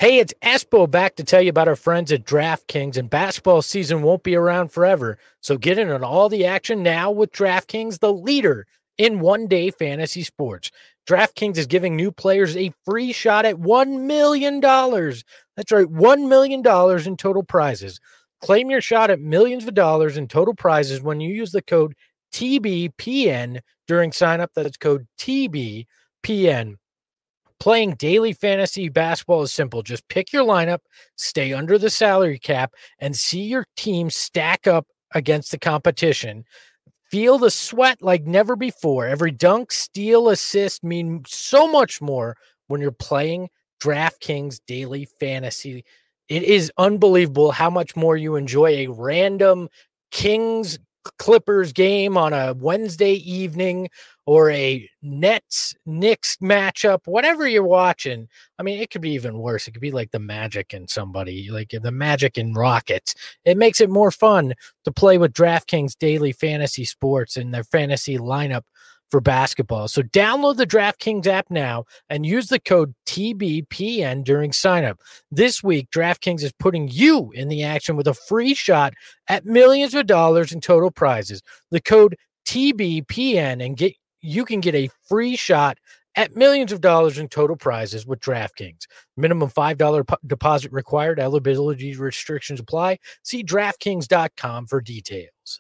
Hey, it's Espo back to tell you about our friends at DraftKings, and basketball season won't be around forever. So get in on all the action now with DraftKings, the leader in one-day fantasy sports. DraftKings is giving new players a free shot at $1 million. That's right, $1 million in total prizes. Claim your shot at millions of dollars in total prizes when you use the code TBPN during signup. That's code TBPN. Playing daily fantasy basketball is simple. Just pick your lineup, stay under the salary cap, and see your team stack up against the competition. Feel the sweat like never before. Every dunk, steal, assist mean so much more when you're playing DraftKings daily fantasy. It is unbelievable how much more you enjoy a random Kings Clippers game on a Wednesday evening or a Nets Knicks matchup, whatever you're watching. I mean, it could be even worse. It could be like the Magic and somebody, like the Magic and Rockets. It makes it more fun to play with DraftKings daily fantasy sports and their fantasy lineup for basketball. So download the DraftKings app now and use the code TBPN during signup. This week, DraftKings is putting you in the action with a free shot at millions of dollars in total prizes. The code TBPN and you can get a free shot at millions of dollars in total prizes with DraftKings. Minimum $5 deposit required. Eligibility restrictions apply. See DraftKings.com for details.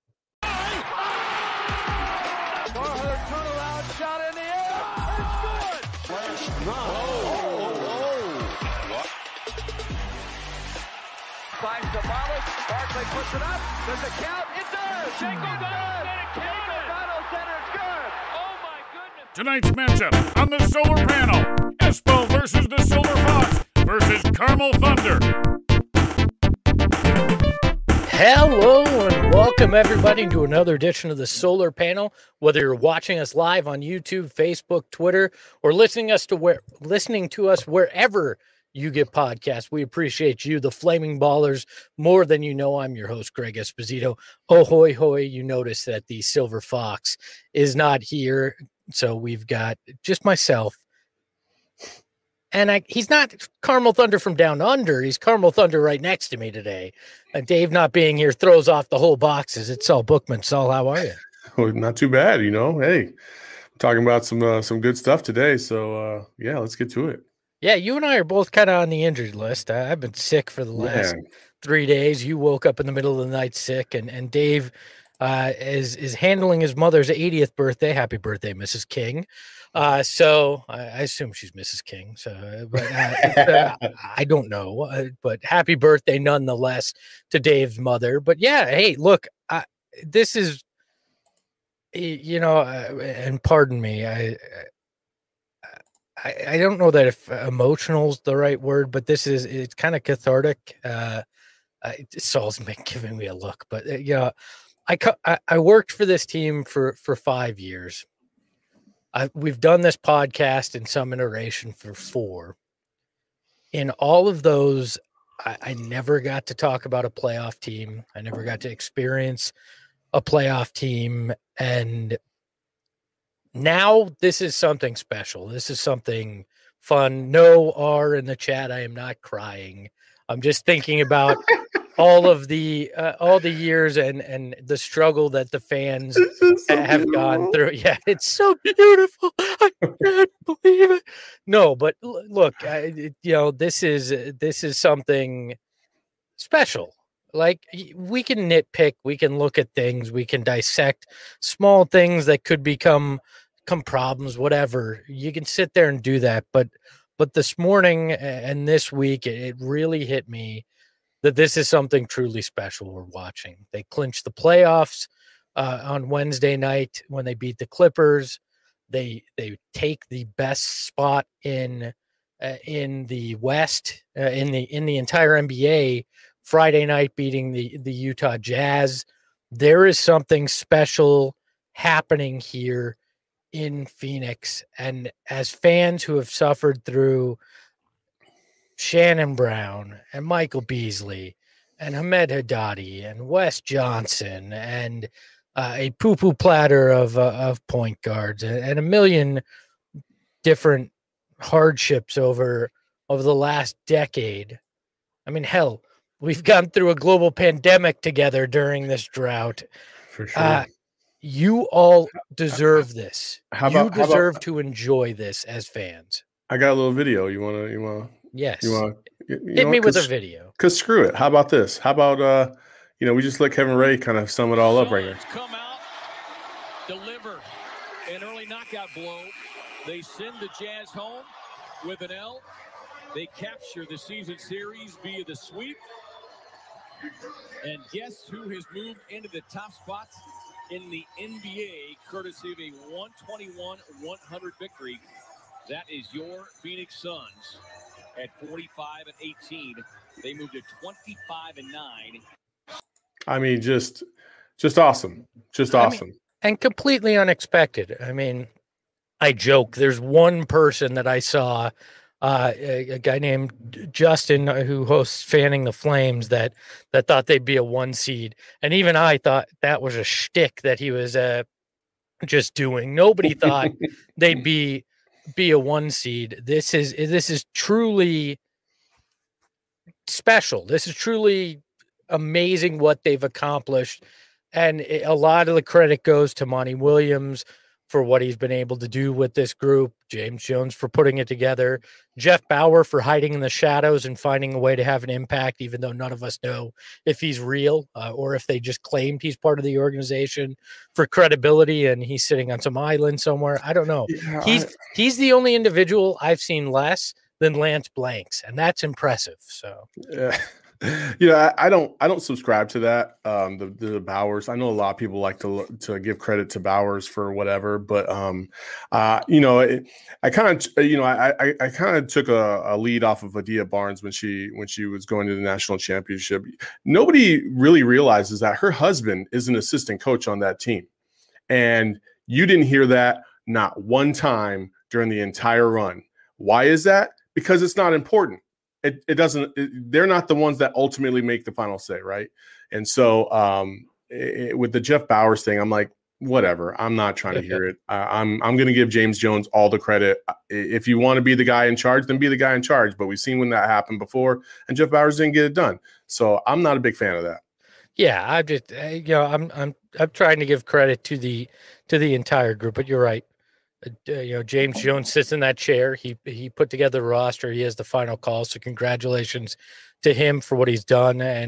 Finds the Wallace. Barkley puts it up. There's a count. It does. Shango does. O'Donnell centers good. Oh my goodness. Tonight's matchup on the solar panel: Espo versus the Silver Fox versus Carmel Thunder. Hello and welcome everybody to another edition of the Solar Panel. Whether you're watching us live on YouTube, Facebook, Twitter, or listening to us wherever you get podcasts, we appreciate you, the Flaming Ballers, more than you know. I'm your host, Greg Esposito. Oh, hoy, hoy, you notice that the Silver Fox is not here, so we've got just myself. And he's not Carmel Thunder from down under. He's Carmel Thunder right next to me today. Dave not being here throws off the whole boxes. It's Saul Bookman. Saul, how are you? Oh, not too bad, you know. Hey, talking about some good stuff today. So, yeah, let's get to it. Yeah, you and I are both kind of on the injured list. I've been sick for the last 3 days. You woke up in the middle of the night sick, and Dave is handling his mother's 80th birthday. Happy birthday, Mrs. King. So I assume she's Mrs. King. So, but I don't know. But happy birthday nonetheless to Dave's mother. But yeah, hey, look, this is, and pardon me, I don't know that if emotional is the right word, but it's kind of cathartic. Saul's been giving me a look, but I worked for this team for 5 years. We've done this podcast in some iteration for 4. In all of those, I never got to talk about a playoff team. I never got to experience a playoff team. And now this is something special. This is something fun. No R in the chat. I am not crying. I'm just thinking about all the years and the struggle that the fans have gone through. Yeah, it's so beautiful. I can't believe it. No, but look, this is something special. Like, we can nitpick, we can look at things, we can dissect small things that could become problems, whatever. You can sit there and do that, but this morning and this week, it really hit me that this is something truly special we're watching. They clinched the playoffs on Wednesday night when they beat the Clippers. They take the best spot in the West, in the entire NBA. Friday night beating the Utah Jazz. There is something special happening here in Phoenix. And as fans who have suffered through Shannon Brown and Michael Beasley and Hamed Haddadi and Wes Johnson and a poo-poo platter of point guards and a million different hardships over over the last decade. I mean, hell, we've gone through a global pandemic together during this drought. For sure. You all deserve this. How You about deserve to enjoy this as fans. I got a little video. You wanna Yes. hit me with a video. Because screw it. How about this? How about we just let Kevin Ray kind of sum it all up right here. Come out, deliver an early knockout blow. They send the Jazz home with an L. They capture the season series via the sweep. And guess who has moved into the top spots in the NBA courtesy of a 121-100 victory? That is your Phoenix Suns at 45-18. They moved to 25-9. I mean, just awesome. Just awesome. And completely unexpected. I mean, I joke. There's one person that I saw, a guy named Justin who hosts Fanning the Flames that thought they'd be a 1 seed. And even I thought that was a shtick that he was just doing. Nobody thought they'd be a 1 seed. This is truly special. This is truly amazing what they've accomplished. And a lot of the credit goes to Monty Williams for what he's been able to do with this group, James Jones for putting it together, Jeff Bauer for hiding in the shadows and finding a way to have an impact, even though none of us know if he's real or if they just claimed he's part of the organization for credibility and he's sitting on some island somewhere. I don't know. Yeah, he's the only individual I've seen less than Lance Blanks, and that's impressive. So I don't subscribe to that. The Bowers. I know a lot of people like to give credit to Bowers for whatever, but I kind of took a lead off of Adia Barnes when she was going to the national championship. Nobody really realizes that her husband is an assistant coach on that team, and you didn't hear that not one time during the entire run. Why is that? Because it's not important. It doesn't. They're not the ones that ultimately make the final say, right? And so, with the Jeff Bowers thing, I'm like, whatever. I'm not trying to hear it. I'm going to give James Jones all the credit. If you want to be the guy in charge, then be the guy in charge. But we've seen when that happened before, and Jeff Bowers didn't get it done. So I'm not a big fan of that. Yeah, I'm just I'm trying to give credit to the entire group. But you're right. James Jones sits in that chair. He put together the roster. He has the final call. So congratulations to him for what he's done. And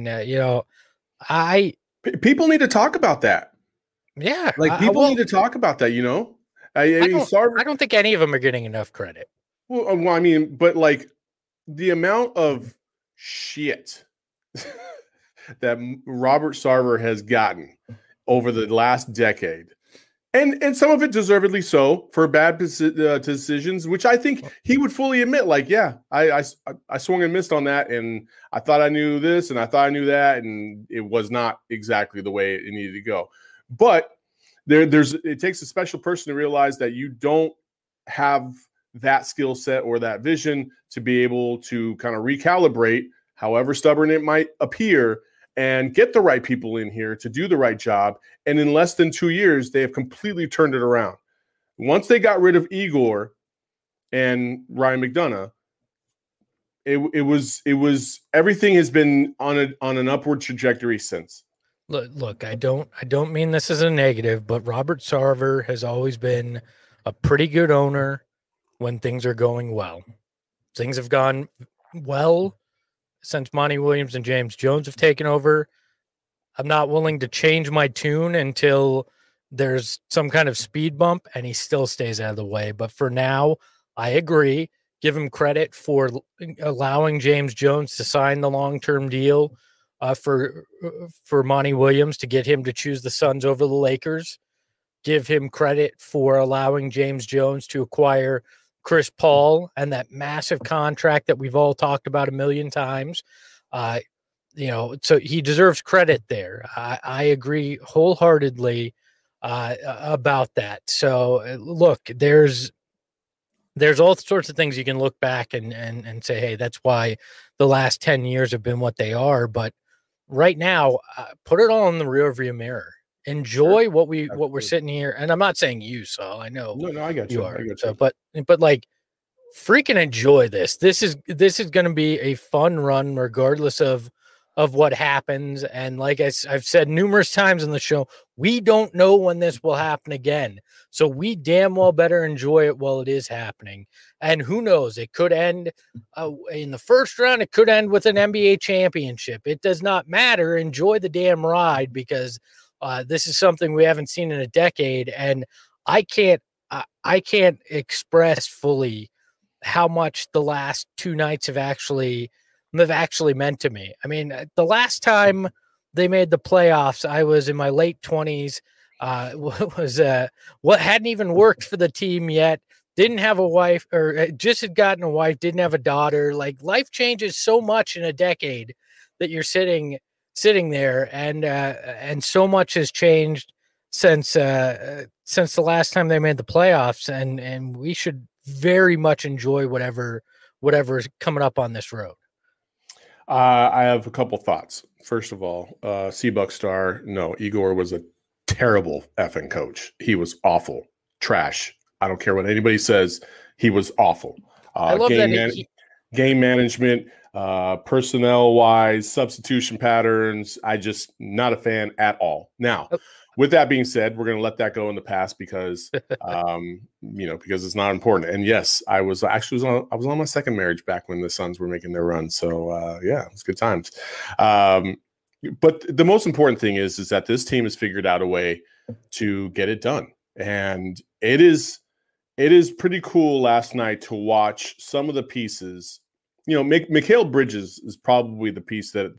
people need to talk about that. Yeah, people need to talk about that. I don't think any of them are getting enough credit. Well, I mean, but like the amount of shit that Robert Sarver has gotten over the last decade. And some of it deservedly so for bad decisions, which I think he would fully admit. Like, yeah, I swung and missed on that, and I thought I knew this, and I thought I knew that, and it was not exactly the way it needed to go. But it takes a special person to realize that you don't have that skill set or that vision to be able to kind of recalibrate, however stubborn it might appear, and get the right people in here to do the right job. And in less than 2 years, they have completely turned it around. Once they got rid of Igor and Ryan McDonough, it was everything has been on an upward trajectory since. Look, I don't mean this as a negative, but Robert Sarver has always been a pretty good owner when things are going well. Things have gone well since Monty Williams and James Jones have taken over. I'm not willing to change my tune until there's some kind of speed bump and he still stays out of the way. But for now, I agree. Give him credit for allowing James Jones to sign the long-term deal for Monty Williams to get him to choose the Suns over the Lakers. Give him credit for allowing James Jones to acquire Chris Paul and that massive contract that we've all talked about a million times. So he deserves credit there. I agree wholeheartedly about that. So look, there's all sorts of things you can look back and say, hey, that's why the last 10 years have been what they are. But right now, put it all in the rearview mirror. Enjoy what we're sitting here. And I'm not saying you, Saul. I know. No, I got you. Are. I got you. So, but like freaking enjoy this. This is going to be a fun run, regardless of what happens. And like I've said numerous times on the show, we don't know when this will happen again. So we damn well better enjoy it while it is happening. And who knows, it could end in the first round. It could end with an NBA championship. It does not matter. Enjoy the damn ride, because this is something we haven't seen in a decade. And I can't express fully how much the last two nights have actually meant to me. I mean, the last time they made the playoffs, I was in my late 20s. What hadn't even worked for the team yet. Didn't have a wife, or just had gotten a wife, didn't have a daughter. Like, life changes so much in a decade that you're sitting there, and so much has changed since the last time they made the playoffs, and we should very much enjoy whatever is coming up on this road. I have a couple thoughts. First of all, Seabuck Star, no, Igor was a terrible effing coach. He was awful, trash. I don't care what anybody says. He was awful. I love game management, personnel-wise, substitution patterns. I just not a fan at all. Now, with that being said, we're going to let that go in the past because, because it's not important. And yes, I was on my second marriage back when the Suns were making their run. So it was good times. But the most important thing is that this team has figured out a way to get it done, and it is pretty cool last night to watch some of the pieces. Mikal Bridges is probably the piece that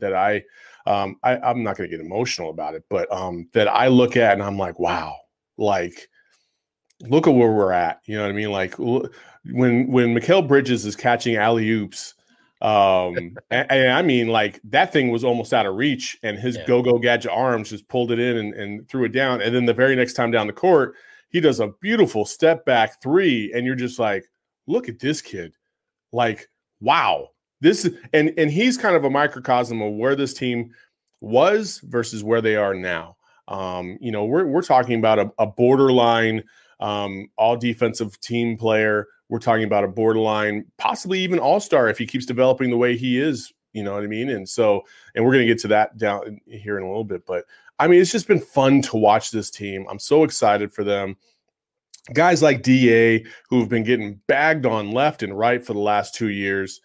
I'm not going to get emotional about it, but that I look at and I'm like, wow, like, look at where we're at. You know what I mean? Like, when Mikal Bridges is catching alley-oops, and I mean, like, that thing was almost out of reach, and his go-go gadget arms just pulled it in and threw it down. And then the very next time down the court, he does a beautiful step back three, and you're just like, look at this kid. Like, wow. This and he's kind of a microcosm of where this team was versus where they are now. We're talking about a borderline all defensive team player. We're talking about a borderline, possibly even all-star if he keeps developing the way he is. You know what I mean? And we're going to get to that down here in a little bit. But I mean, it's just been fun to watch this team. I'm so excited for them. Guys like DA, who have been getting bagged on left and right for the last 2 years.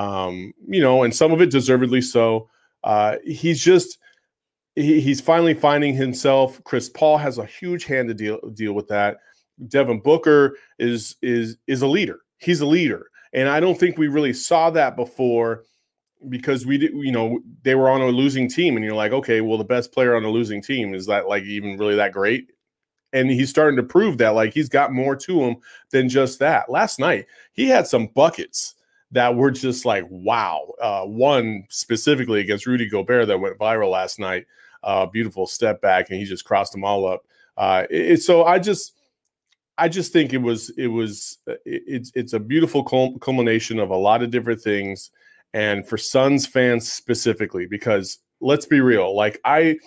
And some of it deservedly so. He's finally finding himself. Chris Paul has a huge hand to deal with that. Devin Booker is a leader. He's a leader. And I don't think we really saw that before, because they were on a losing team, and you're like, okay, well, the best player on a losing team, is that like even really that great? And he's starting to prove that, like, he's got more to him than just that. Last night, he had some buckets that were just like, wow. One specifically against Rudy Gobert that went viral last night. Beautiful step back, and he just crossed them all up. So I just think it's a beautiful culmination of a lot of different things, and for Suns fans specifically, because let's be real, like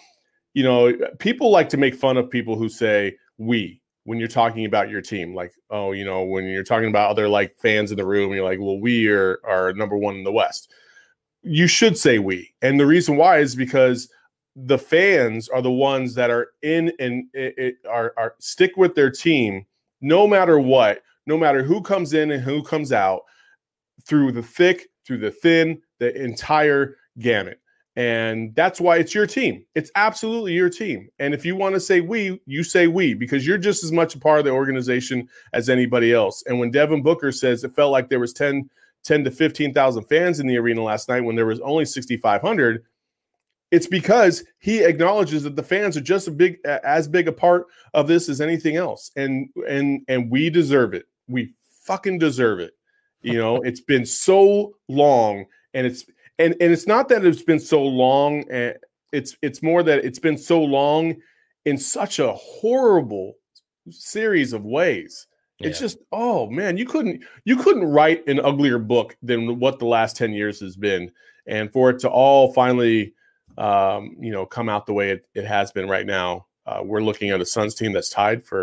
people like to make fun of people who say we when you're talking about your team, like, when you're talking about other like fans in the room, you're like, well, we are number one in the West. You should say we, and the reason why is because the fans are the ones that are in and are stick with their team no matter what, no matter who comes in and who comes out, through the thick, through the thin, the entire gamut. And that's why it's your team. It's absolutely your team. And if you want to say we, you say we, because you're just as much a part of the organization as anybody else. And when Devin Booker says it felt like there was 10 to 15,000 fans in the arena last night when there was only 6,500, it's because he acknowledges that the fans are just as big a part of this as anything else. And we deserve it. We fucking deserve it. It's been so long, and it's not that it's been so long. It's more that it's been so long in such a horrible series of ways. Yeah. It's just, oh man, you couldn't write an uglier book than what the last 10 years has been. And for it to all finally, come out the way it has been right now, we're looking at a Suns team that's tied for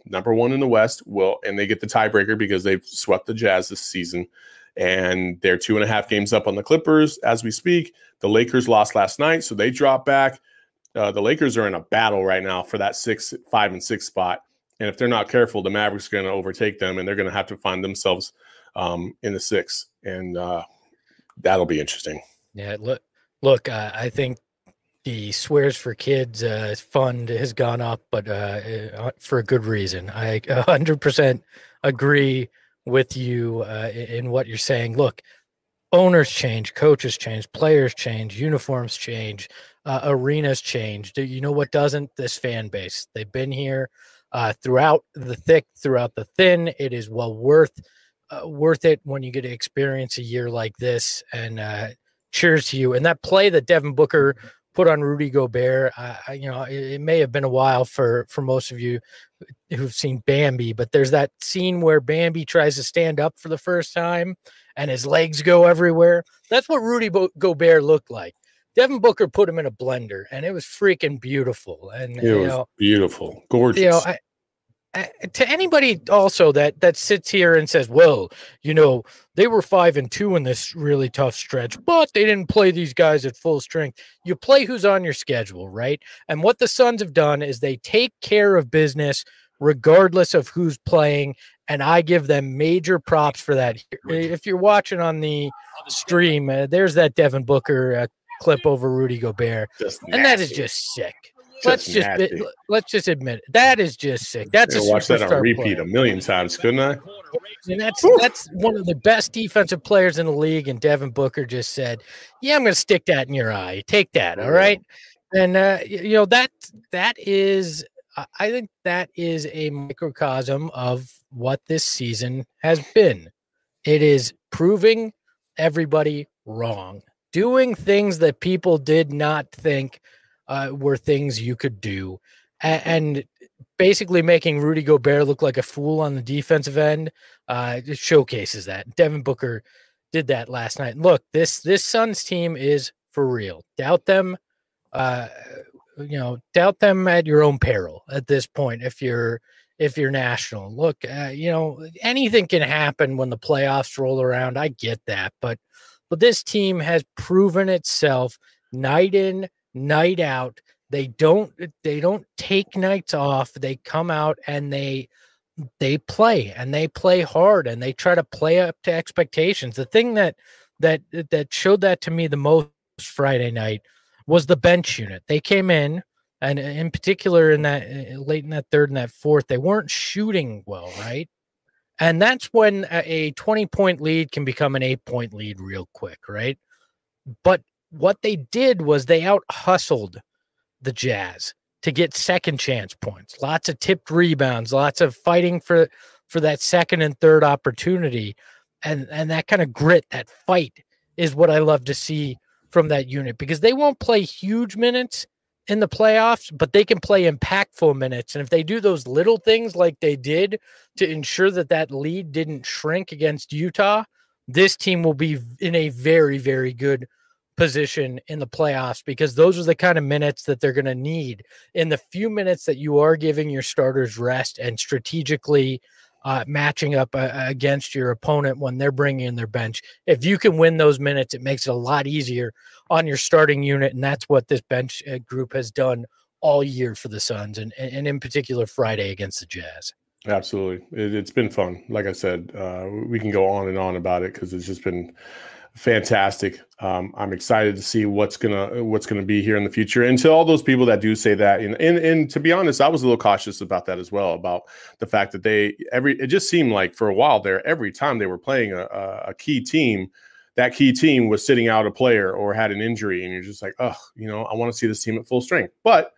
number one in the West, and they get the tiebreaker because they've swept the Jazz this season. And they're 2.5 games up on the Clippers as we speak. The Lakers lost last night, so they drop back. The Lakers are in a battle right now for that 5 and 6 spot. And if they're not careful, the Mavericks are going to overtake them, and they're going to have to find themselves in the 6. And that'll be interesting. Yeah, look. I think the Swears for Kids fund has gone up, but for a good reason. I 100% agree with you in what you're saying. Look, owners change, coaches change, players change, uniforms change, arenas change. You know what doesn't? This fan base. They've been here throughout the thick, throughout the thin. It is well worth it when you get to experience a year like this. And cheers to you. And that play that Devin Booker put on Rudy Gobert, it may have been a while for most of you who've seen Bambi, but there's that scene where Bambi tries to stand up for the first time and his legs go everywhere. That's what Rudy Gobert looked like. Devin Booker put him in a blender, and it was freaking beautiful. And it was beautiful, gorgeous. To anybody also that sits here and says, well, they were 5-2 in this really tough stretch, but they didn't play these guys at full strength. You play who's on your schedule, right? And what the Suns have done is they take care of business regardless of who's playing, and I give them major props for that. If you're watching on the stream, there's that Devin Booker clip over Rudy Gobert, and that is just sick. Let's just admit it. That is just sick. That's a watch that on repeat player. A million times, couldn't I? And that's one of the best defensive players in the league. And Devin Booker just said, "Yeah, I'm going to stick that in your eye. Take that, all right." And that is, I think that is a microcosm of what this season has been. It is proving everybody wrong, doing things that people did not think were things you could do, and basically making Rudy Gobert look like a fool on the defensive end. It showcases that. Devin Booker did that last night. Look, this Suns team is for real. Doubt them, doubt them at your own peril at this point. If you're national, look, anything can happen when the playoffs roll around. I get that, but this team has proven itself night in, night out. They don't take nights off. They come out and they play, and they play hard, and they try to play up to expectations. The thing that showed that to me the most Friday night was the bench unit. They came in, and in particular in that late in that third and that fourth, they weren't shooting well, right? And that's when a 20-point lead can become an 8-point lead real quick, right? But what they did was they out-hustled the Jazz to get second chance points, lots of tipped rebounds, lots of fighting for that second and third opportunity. And that kind of grit, that fight is what I love to see from that unit, because they won't play huge minutes in the playoffs, but they can play impactful minutes. And if they do those little things like they did to ensure that lead didn't shrink against Utah, this team will be in a very, very good position in the playoffs, because those are the kind of minutes that they're going to need in the few minutes that you are giving your starters rest and strategically matching up against your opponent when they're bringing in their bench. If you can win those minutes, it makes it a lot easier on your starting unit, and that's what this bench group has done all year for the Suns, and in particular Friday against the Jazz. Absolutely. It's been fun. Like I said, we can go on and on about it because it's just been fantastic. I'm excited to see what's gonna be here in the future. And to all those people that do say that, and to be honest, I was a little cautious about that as well, about the fact that it just seemed like for a while there, every time they were playing a key team, that key team was sitting out a player or had an injury, and you're just like, I want to see this team at full strength. But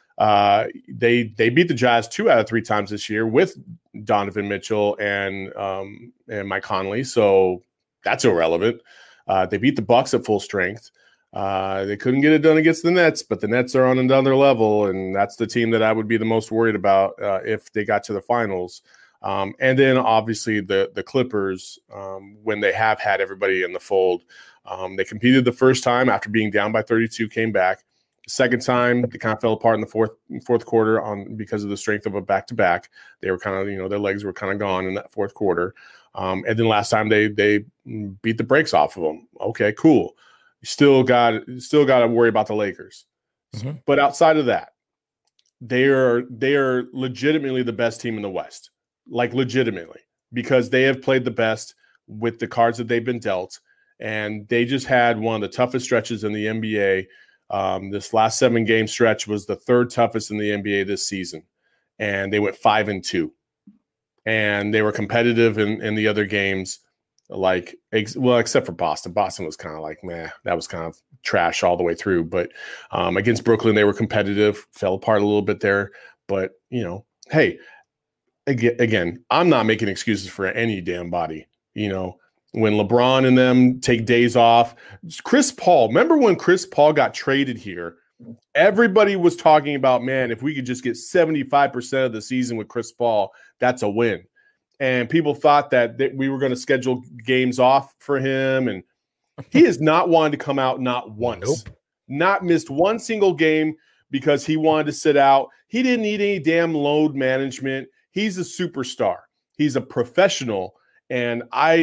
they beat the Jazz 2 out of 3 times this year with Donovan Mitchell and Mike Conley, so that's irrelevant. They beat the Bucks at full strength. They couldn't get it done against the Nets, but the Nets are on another level, and that's the team that I would be the most worried about if they got to the finals. And then obviously the Clippers, when they have had everybody in the fold, they competed the first time after being down by 32, came back. Second time, they kind of fell apart in the fourth quarter because of the strength of a back-to-back. They were kind of, their legs were kind of gone in that fourth quarter. And then last time they beat the brakes off of them. Okay, cool. You still got to worry about the Lakers. Mm-hmm. But outside of that, they are legitimately the best team in the West, like legitimately, because they have played the best with the cards that they've been dealt. And they just had one of the toughest stretches in the NBA. This last 7-game stretch was the third toughest in the NBA this season. And they went 5-2. And they were competitive in the other games, except for Boston. Boston was kind of like, meh, that was kind of trash all the way through. But against Brooklyn, they were competitive, fell apart a little bit there. But, hey, again, I'm not making excuses for any damn body, When LeBron and them take days off. Chris Paul, remember when Chris Paul got traded here? Everybody was talking about, man, if we could just get 75% of the season with Chris Paul, that's a win. And people thought that we were going to schedule games off for him. And he has not wanted to come out, not once. Nope. Not missed one single game because he wanted to sit out. He didn't need any damn load management. He's a superstar. He's a professional. And I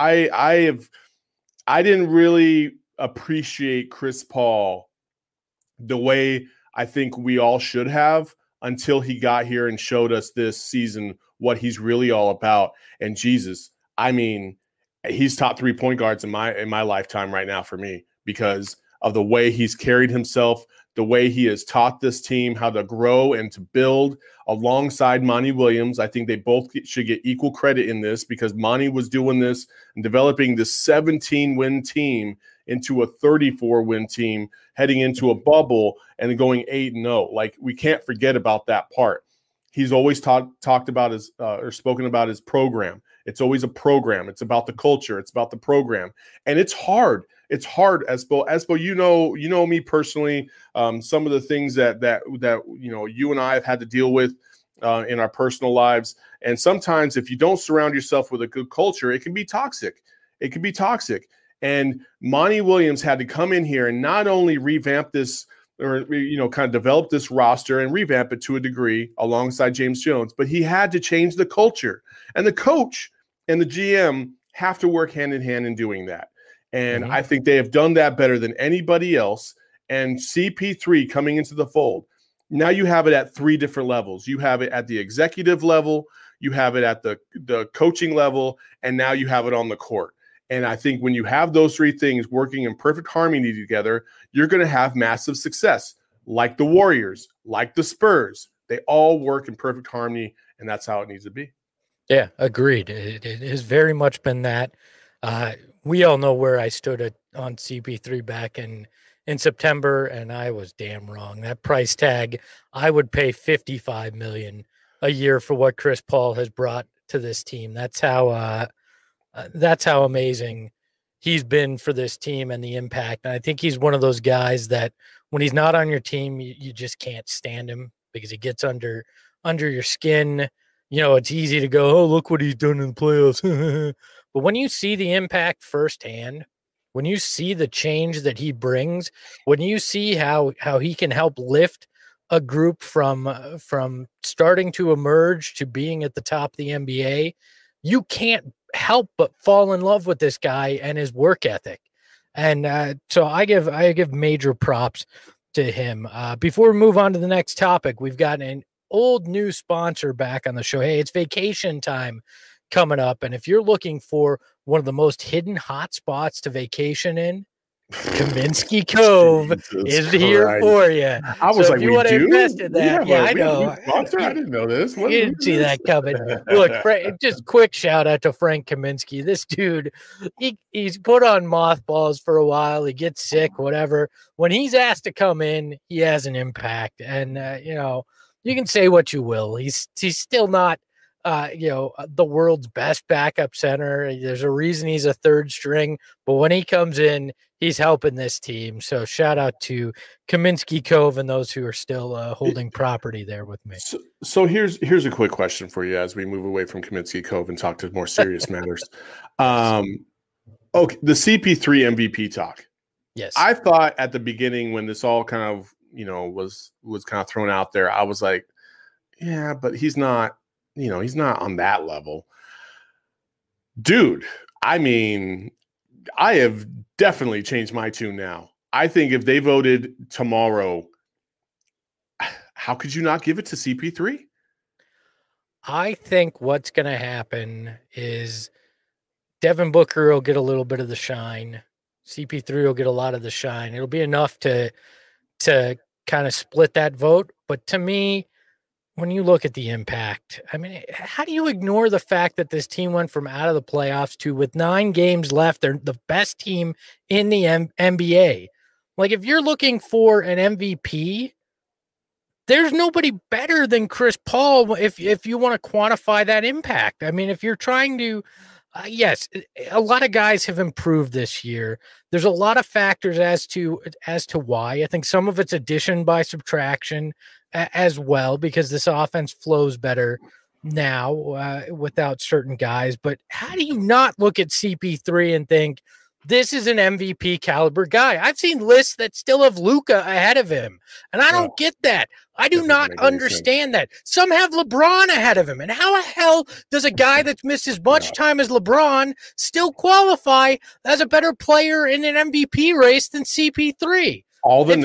didn't really appreciate Chris Paul the way I think we all should have until he got here and showed us this season what he's really all about. And Jesus, I mean, he's top 3 point guards in my lifetime right now for me because of the way he's carried himself, the way he has taught this team how to grow and to build alongside Monty Williams. I think they both should get equal credit in this because Monty was doing this and developing this 17-win team into a 34-win team heading into a bubble and going 8-0. Like, we can't forget about that part. He's always talked about his or spoken about his program. It's always a program. It's about the culture. It's about the program. And it's hard. It's hard, Espo, you know me personally. Some of the things that you and I have had to deal with in our personal lives. And sometimes if you don't surround yourself with a good culture, it can be toxic. It can be toxic. And Monty Williams had to come in here and not only revamp this or, kind of develop this roster and revamp it to a degree alongside James Jones, but he had to change the culture. And the coach and the GM have to work hand in hand in doing that. And I think they have done that better than anybody else. And CP3 coming into the fold, now you have it at 3 different levels. You have it at the executive level, you have it at the coaching level, and now you have it on the court. And I think when you have those 3 things working in perfect harmony together, you're going to have massive success, like the Warriors, like the Spurs. They all work in perfect harmony, and that's how it needs to be. Yeah, agreed. It has very much been that. We all know where I stood on CP3 back in September, and I was damn wrong. That price tag, I would pay $55 million a year for what Chris Paul has brought to this team. That's how amazing he's been for this team and the impact. And I think he's one of those guys that when he's not on your team, you just can't stand him because he gets under your skin. It's easy to go, oh, look what he's done in the playoffs. But when you see the impact firsthand, when you see the change that he brings, when you see how he can help lift a group from starting to emerge to being at the top of the NBA, you can't help but fall in love with this guy and his work ethic. And so I give major props to him. Before we move on to the next topic, we've got an old new sponsor back on the show. Hey, it's vacation time coming up. And if you're looking for one of the most hidden hot spots to vacation in, Kaminsky Cove is here for you. I was like, you want to invest in that? Yeah, I know. Sponsor? I didn't know this. You didn't see that coming. Look, just quick shout out to Frank Kaminsky. This dude, he's put on mothballs for a while. He gets sick, whatever. When he's asked to come in, he has an impact. And, you can say what you will. He's still not, the world's best backup center. There's a reason he's a third string, but when he comes in, he's helping this team. So shout out to Kaminsky Cove and those who are still holding property there with me. So here's a quick question for you as we move away from Kaminsky Cove and talk to more serious matters. Okay, the CP3 MVP talk. Yes. I thought at the beginning when this all kind of was kind of thrown out there, I was like, yeah, but he's not on that level. Dude, I mean, I have definitely changed my tune now. I think if they voted tomorrow, how could you not give it to CP3? I think what's going to happen is Devin Booker will get a little bit of the shine. CP3 will get a lot of the shine. It'll be enough to kind of split that vote. But to me, when you look at the impact, I mean, how do you ignore the fact that this team went from out of the playoffs to, with 9 games left, they're the best team in the NBA? Like, if you're looking for an MVP, there's nobody better than Chris Paul if you want to quantify that impact. I mean, if you're trying to, yes, a lot of guys have improved this year. There's a lot of factors as to why. I think some of it's addition by subtraction as well, because this offense flows better now without certain guys. But how do you not look at CP3 and think this is an MVP caliber guy? I've seen lists that still have Luka ahead of him, and I don't get that. I do not understand that. Some have LeBron ahead of him, and how the hell does a guy that's missed as much time as LeBron still qualify as a better player in an MVP race than CP3? All the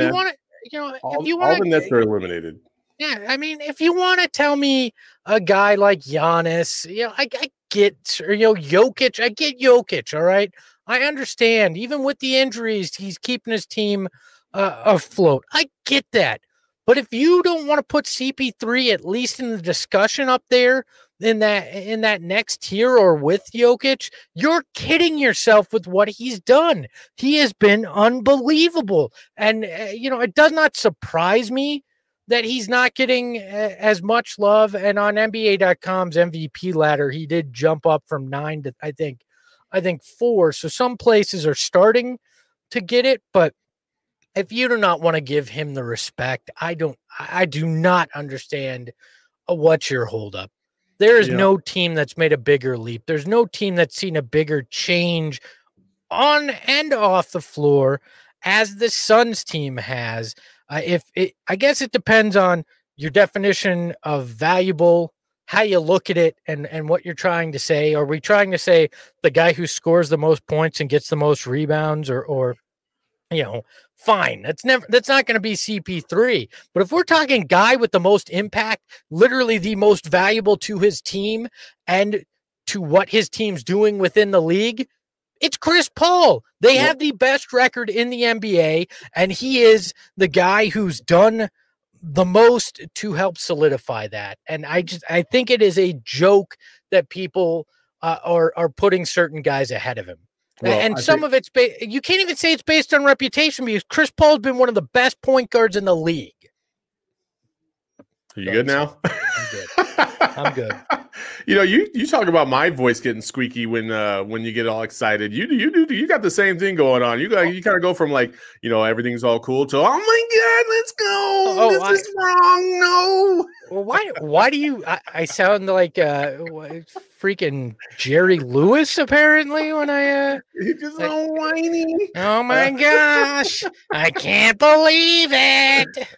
nets are eliminated. Yeah, I mean, if you want to tell me a guy like Giannis, I get, Jokic, I get Jokic, all right? I understand. Even with the injuries, he's keeping his team afloat. I get that. But if you don't want to put CP3 at least in the discussion up there in that next tier or with Jokic, you're kidding yourself with what he's done. He has been unbelievable. And, it does not surprise me that he's not getting as much love. And on NBA.com's MVP ladder, he did jump up from 9 to, I think 4. So some places are starting to get it, but if you do not want to give him the respect, I do not understand what's your holdup. There is no team that's made a bigger leap. There's no team that's seen a bigger change on and off the floor as the Suns team has. I guess it depends on your definition of valuable, how you look at it, and what you're trying to say. Are we trying to say the guy who scores the most points and gets the most rebounds, or fine. That's not going to be CP3. But if we're talking guy with the most impact, literally the most valuable to his team and to what his team's doing within the league, it's Chris Paul. They have the best record in the NBA, and he is the guy who's done the most to help solidify that. And I think it is a joke that people are putting certain guys ahead of him. Well, and some of it's you can't even say it's based on reputation, because Chris Paul's been one of the best point guards in the league. Are you good now? I'm good. You talk about my voice getting squeaky when you get all excited. You got the same thing going on. You kind of go from everything's all cool to, oh my God, let's go. This is wrong. No. Well, why do you? I sound like freaking Jerry Lewis apparently when I. You're just so whiny. Oh my gosh! I can't believe it.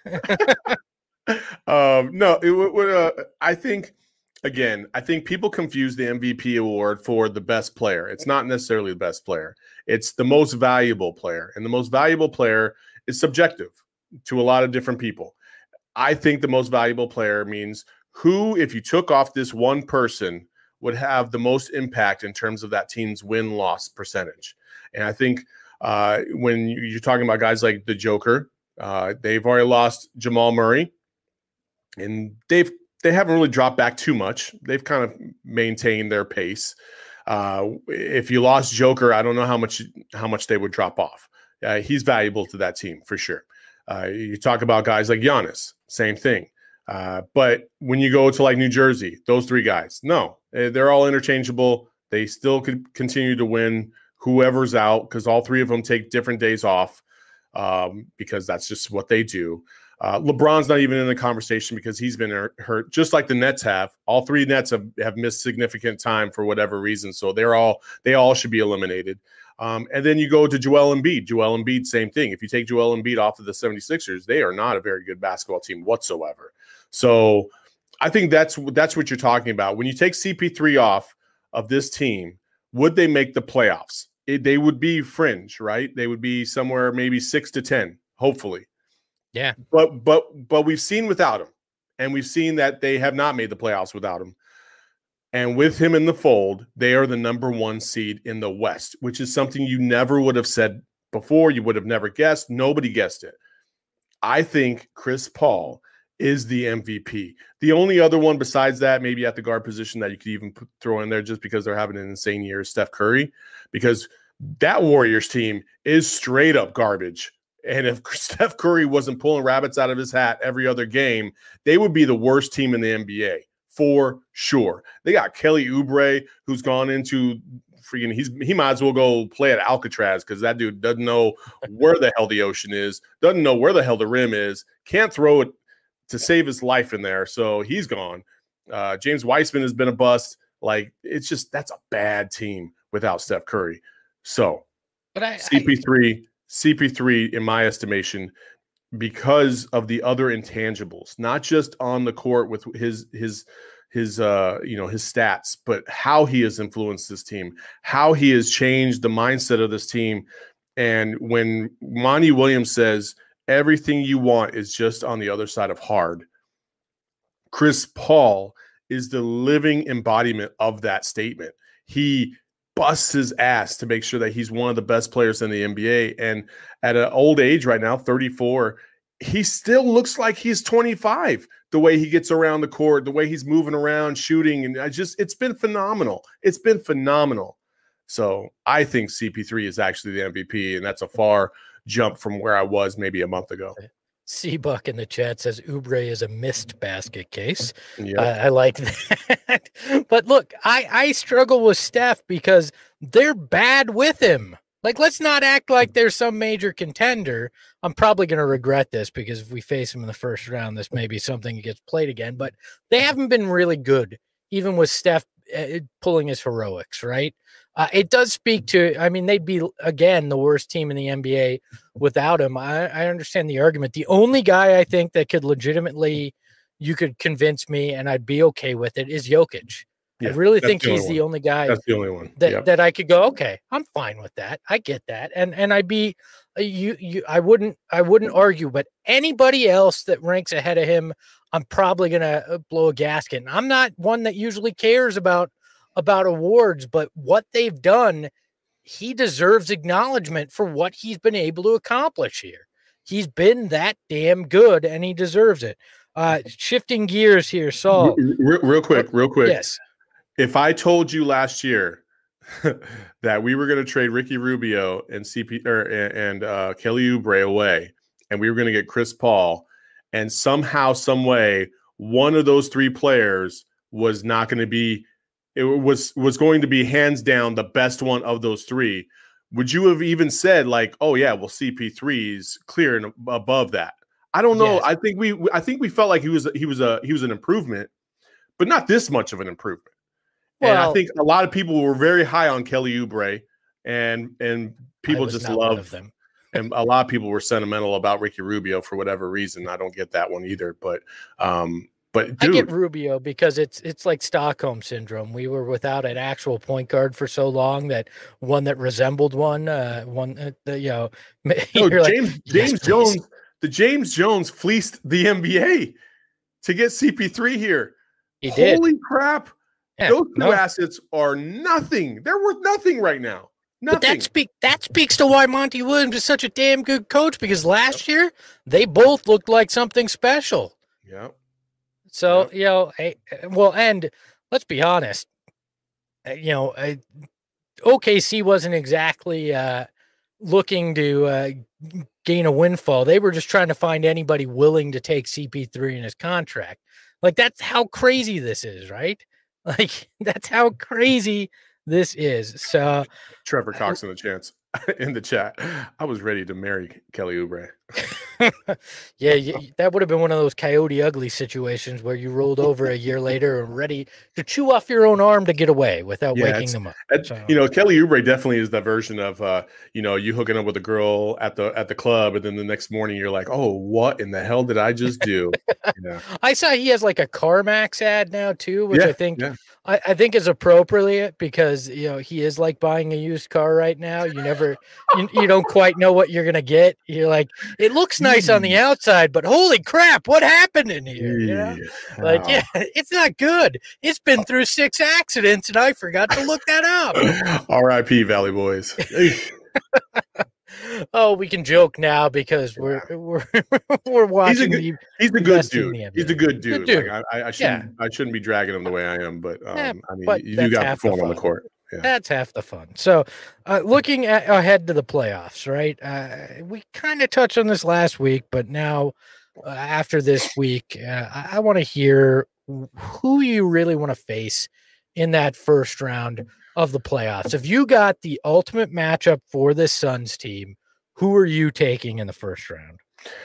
No, I think people confuse the MVP award for the best player. It's not necessarily the best player. It's the most valuable player. And the most valuable player is subjective to a lot of different people. I think the most valuable player means who, if you took off this one person, would have the most impact in terms of that team's win-loss percentage. And I think when you're talking about guys like the Joker, they've already lost Jamal Murray. And they haven't really dropped back too much. They've kind of maintained their pace. If you lost Joker, I don't know how much they would drop off. He's valuable to that team for sure. You talk about guys like Giannis, same thing. But when you go to like New Jersey, those 3 guys, no, they're all interchangeable. They still could continue to win whoever's out, because all 3 of them take different days off because that's just what they do. LeBron's not even in the conversation because he's been hurt, just like the Nets have. All 3 Nets have missed significant time for whatever reason, so they all should be eliminated. And then you go to Joel Embiid. Joel Embiid, same thing. If you take Joel Embiid off of the 76ers, they are not a very good basketball team whatsoever. So I think that's what you're talking about. When you take CP3 off of this team, would they make the playoffs? They would be fringe, right? They would be somewhere maybe 6 to 10, hopefully. Yeah. But we've seen without him, and we've seen that they have not made the playoffs without him. And with him in the fold, they are the number 1 seed in the West, which is something you never would have said before. You would have never guessed. Nobody guessed it. I think Chris Paul is the MVP. The only other one besides that, maybe at the guard position that you could even throw in there just because they're having an insane year, is Steph Curry, because that Warriors team is straight up garbage. And if Steph Curry wasn't pulling rabbits out of his hat every other game, they would be the worst team in the NBA for sure. They got Kelly Oubre, who's gone into freaking, he might as well go play at Alcatraz because that dude doesn't know where the hell the ocean is, doesn't know where the hell the rim is, can't throw it to save his life in there. So he's gone. James Wiseman has been a bust. Like, it's just, that's a bad team without Steph Curry. So But CP3, in my estimation, because of the other intangibles, not just on the court with his stats, but how he has influenced this team, how he has changed the mindset of this team. And when Monty Williams says everything you want is just on the other side of hard, Chris Paul is the living embodiment of that statement. He busts his ass to make sure that he's one of the best players in the NBA. And at an old age right now, 34, he still looks like he's 25, the way he gets around the court, the way he's moving around, shooting. And it's been phenomenal. It's been phenomenal. So I think CP3 is actually the MVP, and that's a far jump from where I was maybe a month ago. C-Buck in the chat says Oubre is a missed basket case. Yep. I like that. But look, I struggle with Steph because they're bad with him. Like, let's not act like there's some major contender. I'm probably going to regret this because if we face him in the first round, this may be something that gets played again. But they haven't been really good, even with Steph pulling his heroics, right? It does speak to, I mean, they'd be, again, the worst team in the NBA without him. I understand the argument. The only guy I think that could legitimately, you could convince me and I'd be okay with it is Jokic. Yeah, I really think he's the only guy. That's the only one that I could go, okay, I'm fine with that. I get that. And I'd be, I wouldn't argue, but anybody else that ranks ahead of him, I'm probably going to blow a gasket. And I'm not one that usually cares about awards, but what they've done, he deserves acknowledgement for what he's been able to accomplish here. He's been that damn good and he deserves it. Shifting gears here, Saul. Real quick. Yes. If I told you last year that we were going to trade Ricky Rubio and Kelly Oubre away, and we were going to get Chris Paul, and somehow, some way, one of those three players was not going to be, it was going to be hands down the best one of those three, would you have even said like, oh yeah, well CP3 is clear and above that? I don't know. Yes. I think we felt like he was an improvement, but not this much of an improvement. Well, and I think a lot of people were very high on Kelly Oubre, and people just love them. And a lot of people were sentimental about Ricky Rubio for whatever reason. I don't get that one either, but dude, I get Rubio because it's like Stockholm syndrome. We were without an actual point guard for so long that one that resembled one. James Jones. The James Jones fleeced the NBA to get CP3 here. He did. Holy crap. Yeah, those two assets are nothing. They're worth nothing right now. Nothing. But that speaks to why Monty Williams is such a damn good coach, because last year they both looked like something special. Yeah. So, and let's be honest, OKC wasn't exactly looking to gain a windfall. They were just trying to find anybody willing to take CP3 in his contract. Like, that's how crazy this is, right? Like, that's how crazy this is. So Trevor Cox in the chat. I was ready to marry Kelly Oubre. Yeah, that would have been one of those Coyote Ugly situations where you rolled over a year later and ready to chew off your own arm to get away without waking them up. So. Kelly Oubre definitely is the version of you hooking up with a girl at the club, and then the next morning you're like, oh, what in the hell did I just do? Yeah. I saw he has like a CarMax ad now too, which I think I think is appropriate because he is like buying a used car right now. You never you don't quite know what you're gonna get. You're like, it looks nice on the outside, but holy crap, what happened in here? It's not good. It's been through 6 accidents and I forgot to look that up. R.I.P. Valley Boys. Oh, we can joke now because we're watching. He's a good dude. He's a good dude. Like, I shouldn't be dragging him the way I am, but you got to perform on the court. Yeah. That's half the fun. So, looking ahead to the playoffs, right? We kind of touched on this last week, but now after this week, I want to hear who you really want to face in that first round of the playoffs. If you got the ultimate matchup for this Suns team, who are you taking in the first round?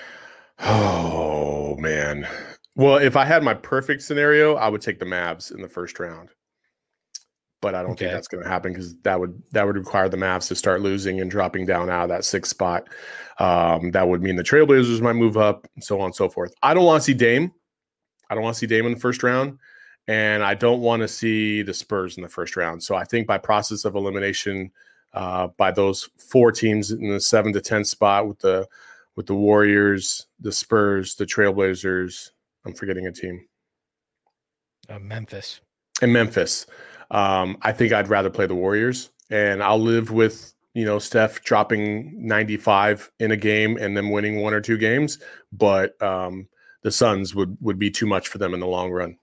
Oh, man. Well, if I had my perfect scenario, I would take the Mavs in the first round. But I don't think that's going to happen because that would require the Mavs to start losing and dropping down out of that 6th spot. That would mean the Trailblazers might move up, and so on and so forth. I don't want to see Dame. I don't want to see Dame in the first round. And I don't want to see the Spurs in the first round. So I think by process of elimination, by those 4 teams in the 7 to 10 spot with the Warriors, the Spurs, the Trailblazers, I'm forgetting a team. Memphis. And Memphis. I think I'd rather play the Warriors, and I'll live with Steph dropping 95 in a game and then winning 1 or 2 games. But the Suns would be too much for them in the long run.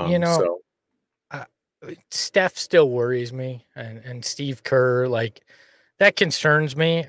Steph still worries me, and Steve Kerr, like, that concerns me.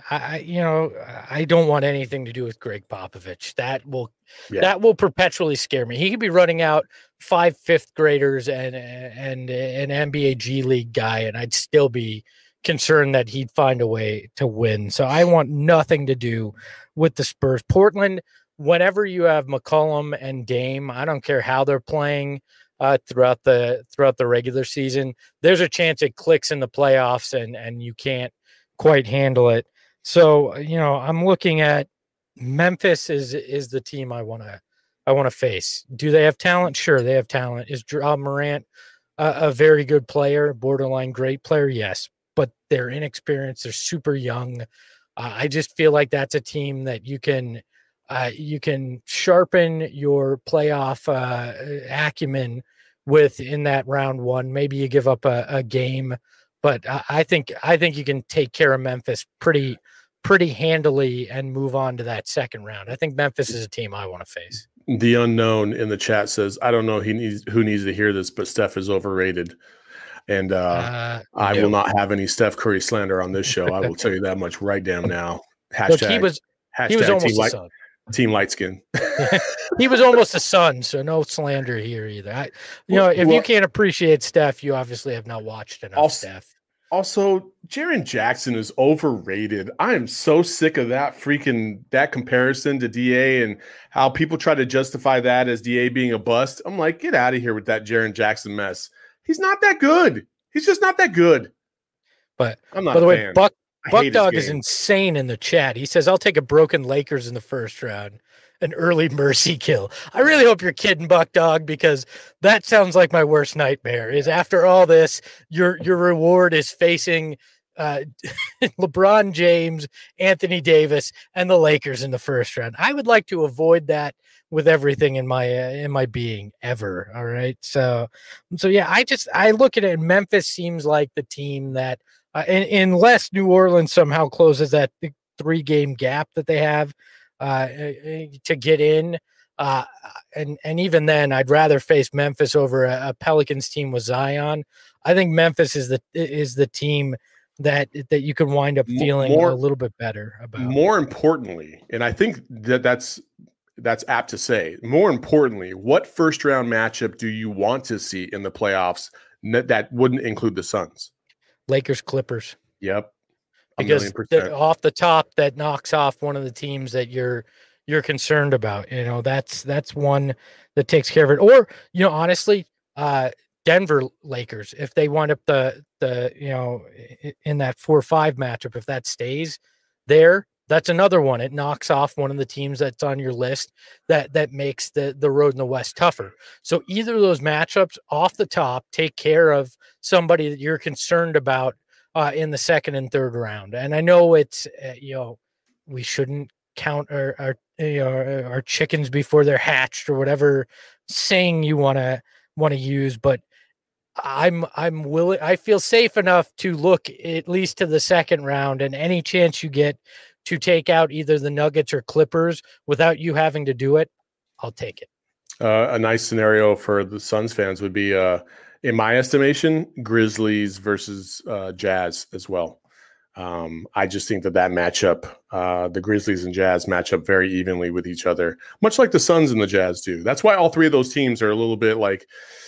I don't want anything to do with Greg Popovich. That will perpetually scare me. He could be running out 5 5th graders and an NBA G League guy, and I'd still be concerned that he'd find a way to win. So I want nothing to do with the Spurs. Portland, whenever you have McCollum and Dame, I don't care how they're playing throughout the regular season, there's a chance it clicks in the playoffs and you can't quite handle it. So, I'm looking at Memphis is the team I want to face. Do they have talent? Sure, they have talent. Is Ja Morant a very good player, borderline great player? Yes, but they're inexperienced. They're super young. I just feel like that's a team that you can sharpen your playoff acumen with in that round 1. Maybe you give up a game, but I think you can take care of Memphis pretty handily and move on to that second round. I think Memphis is a team I want to face. The unknown in the chat says, I don't know who needs to hear this, but Steph is overrated. And I will not have any Steph Curry slander on this show. I will tell you that much right damn now. Look, he was almost a Sun. Team light skin. He was almost a Sun, so no slander here either. If you can't appreciate Steph, you obviously have not watched enough Steph. Also, Jaren Jackson is overrated. I am so sick of that comparison to DA and how people try to justify that as DA being a bust. I'm like, get out of here with that Jaren Jackson mess. He's not that good. He's just not that good. But I'm not by the way, fan. Buck Dog is insane in the chat. He says, I'll take a broken Lakers in the first round. An early mercy kill. I really hope you're kidding, Buck Dog, because that sounds like my worst nightmare. Is after all this, your reward is facing LeBron James, Anthony Davis, and the Lakers in the first round. I would like to avoid that with everything in my being ever. All right, so yeah, I look at it. And Memphis seems like the team that, unless New Orleans somehow closes that 3-game gap that they have to get in, and even then, I'd rather face Memphis over a Pelicans team with Zion. I think Memphis is the team that you can wind up feeling a little bit better about. More importantly, and I think that's apt to say, more importantly, what first round matchup do you want to see in the playoffs that wouldn't include the Suns? Lakers Clippers. Yep. Because off the top, that knocks off one of the teams that you're you're concerned about. That's one that takes care of it. Or, honestly, Denver Lakers, if they wind up in that 4-5 matchup, if that stays there, that's another one. It knocks off one of the teams that's on your list that makes the road in the West tougher. So either of those matchups off the top take care of somebody that you're concerned about in the second and third round. And I know it's, we shouldn't count our chickens before they're hatched, or whatever saying you want to use, but I'm willing. I feel safe enough to look at least to the second round, and any chance you get to take out either the Nuggets or Clippers without you having to do it, I'll take it. A nice scenario for the Suns fans would be, in my estimation, Grizzlies versus Jazz as well. I just think that matchup, the Grizzlies and Jazz match up very evenly with each other, much like the Suns and the Jazz do. That's why all three of those teams are a little bit like,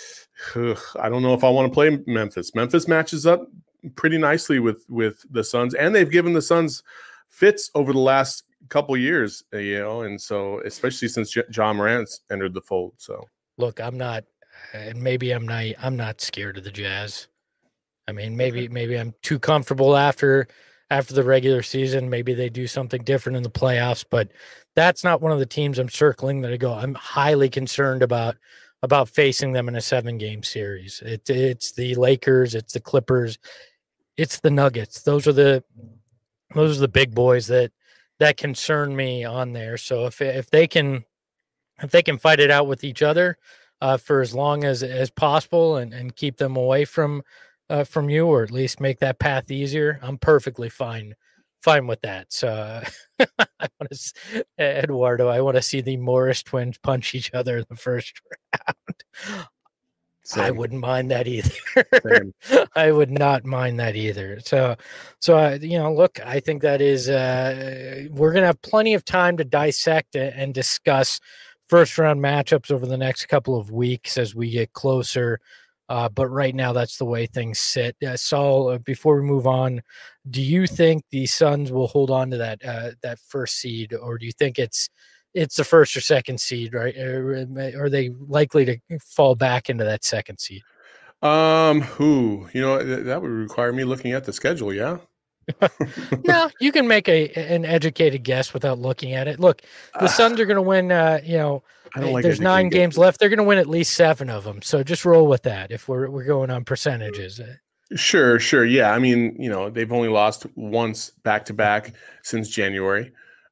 I don't know if I want to play Memphis. Memphis matches up pretty nicely with the Suns, and they've given the Suns fits over the last couple years, and so especially since John Morant's entered the fold. So look, I'm not, and maybe I'm not scared of the Jazz. I mean, maybe I'm too comfortable after the regular season. Maybe they do something different in the playoffs, but that's not one of the teams I'm circling that I go, I'm highly concerned about facing them in a 7-game series. It's the Lakers, it's the Clippers, it's the Nuggets. Those are the big boys that concern me on there. So if they can fight it out with each other for as long as possible and keep them away from you, or at least make that path easier, I'm perfectly fine with that. So I want to, Eduardo, I want to see the Morris twins punch each other in the first round. Same. I wouldn't mind that either. I would not mind that either. So look, I think that is, we're going to have plenty of time to dissect and discuss first round matchups over the next couple of weeks as we get closer. But right now, that's the way things sit. Saul, before we move on, do you think the Suns will hold on to that first seed, or do you think it's the first or second seed, right? Are they likely to fall back into that second seed? That would require me looking at the schedule. Yeah. No, you can make an educated guess without looking at it. Look, the Suns are going to win. There's 9 games left. They're going to win at least 7 of them. So just roll with that. If we're going on percentages. Sure. Yeah. I mean, they've only lost once back to back since January.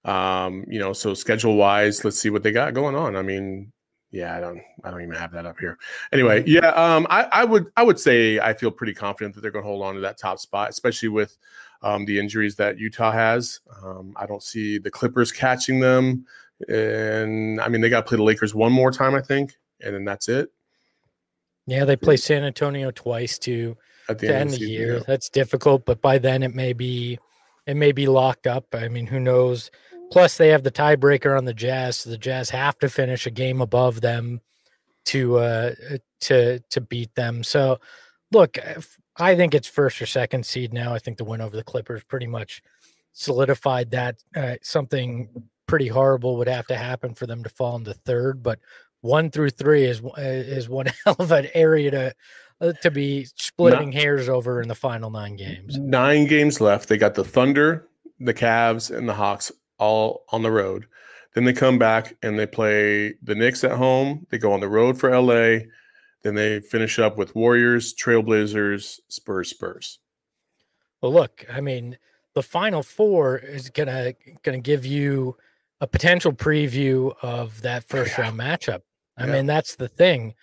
So schedule wise, let's see what they got going on. I mean, yeah, I don't even have that up here. Anyway, yeah, I would say I feel pretty confident that they're going to hold on to that top spot, especially with the injuries that Utah has. I don't see the Clippers catching them, and I mean they got to play the Lakers one more time, I think, and then that's it. Yeah, they play San Antonio twice too at the end of the year. Yeah. That's difficult, but by then it may be locked up. I mean, who knows? Plus, they have the tiebreaker on the Jazz, so the Jazz have to finish a game above them to beat them. So, look, I think it's first or second seed now. I think the win over the Clippers pretty much solidified that. Something pretty horrible would have to happen for them to fall into third, but 1 through 3 is one hell of an area to be splitting hairs over in the final 9 games. 9 games left. They got the Thunder, the Cavs, and the Hawks all on the road. Then they come back and they play the Knicks at home. They go on the road for LA. Then they finish up with Warriors, Trailblazers, Spurs. Well, look, I mean, the Final Four is gonna give you a potential preview of that first round matchup. I mean, that's the thing.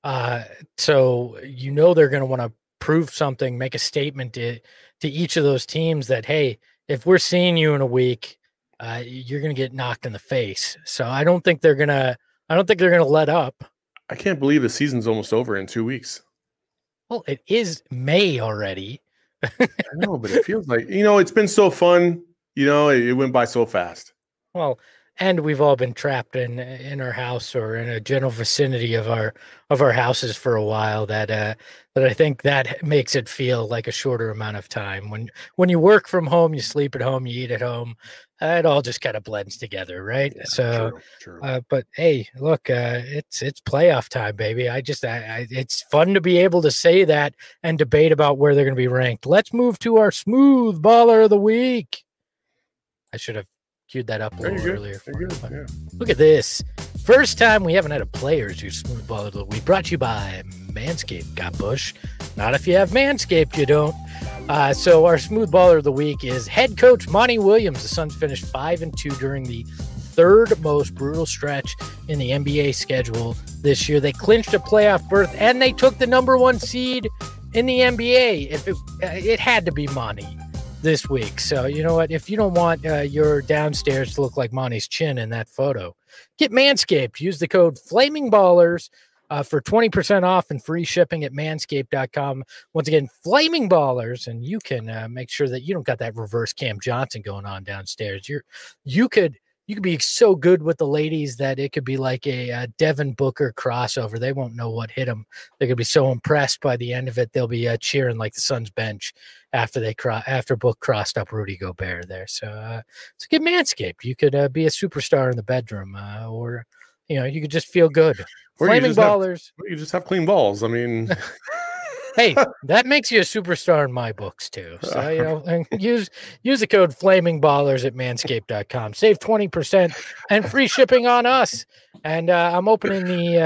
So they're going to want to prove something, make a statement to each of those teams that, hey, if we're seeing you in a week, you're going to get knocked in the face. So I don't think they're going to let up. I can't believe the season's almost over in 2 weeks. Well, it is May already. I know, but it feels like, it's been so fun. It went by so fast. Well, and we've all been trapped in our house or in a general vicinity of our houses for a while. That I think that makes it feel like a shorter amount of time. When you work from home, you sleep at home, you eat at home. it all just kind of blends together, right? Yeah, So, true. but hey, look, it's playoff time, baby. It's fun to be able to say that and debate about where they're going to be ranked. Let's move to our smooth baller of the week. I should have queued that up a little earlier. Yeah. Look at this. First time we haven't had a players who smooth baller of the week. Brought to you by Manscaped. Got Bush. Not if you have Manscaped, you don't. So our smooth baller of the week is head coach Monty Williams. The Suns finished 5-2 during the third most brutal stretch in the NBA schedule this year. They clinched a playoff berth and they took the number 1 seed in the NBA. If it had to be Monty this week. So you know what? If you don't want your downstairs to look like Monty's chin in that photo, get Manscaped. Use the code FlamingBallers for 20% off and free shipping at manscaped.com. Once again, Flaming Ballers, and you can make sure that you don't got that reverse Cam Johnson going on downstairs. You could be so good with the ladies that it could be like a Devin Booker crossover. They won't know what hit them. They're gonna be so impressed by the end of it. They'll be cheering like the Suns bench after Book crossed up Rudy Gobert there. So get Manscaped. You could be a superstar in the bedroom, or you could just feel good. Flaming Ballers. You just have clean balls. I mean, hey, that makes you a superstar in my books too. So and use the code FlamingBallers at manscaped.com. Save 20% and free shipping on us. And I'm opening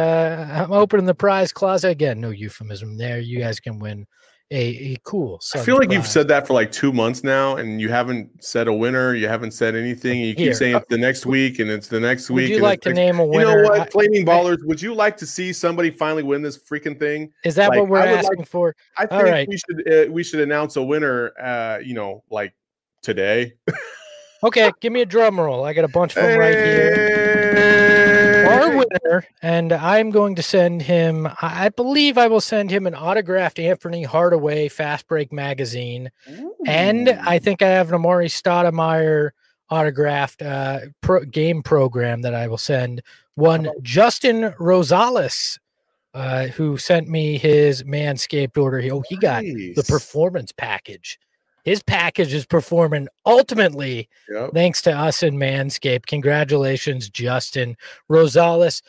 the prize closet again. No euphemism there. You guys can win a cool Suns I feel like prize. you've said that for like 2 months now, and you haven't said a winner. You haven't said anything. You keep saying it's the next week, and it's the next week. Would you like to name a winner? You know what, Flaming Ballers? Would you like to see somebody finally win this freaking thing? Is that what we're asking for? I think we should announce a winner. Like today. Okay, give me a drum roll. I got a bunch of them right here. Our winner, and I'm going to send him, I believe I will send him an autographed Anthony Hardaway Fast Break magazine. Ooh. And I think I have an Amari Stoudemire autographed game program that I will send. One, Justin Rosales, who sent me his Manscaped order. He got the performance package. His package is performing ultimately thanks to us in Manscaped. Congratulations, Justin Rosales.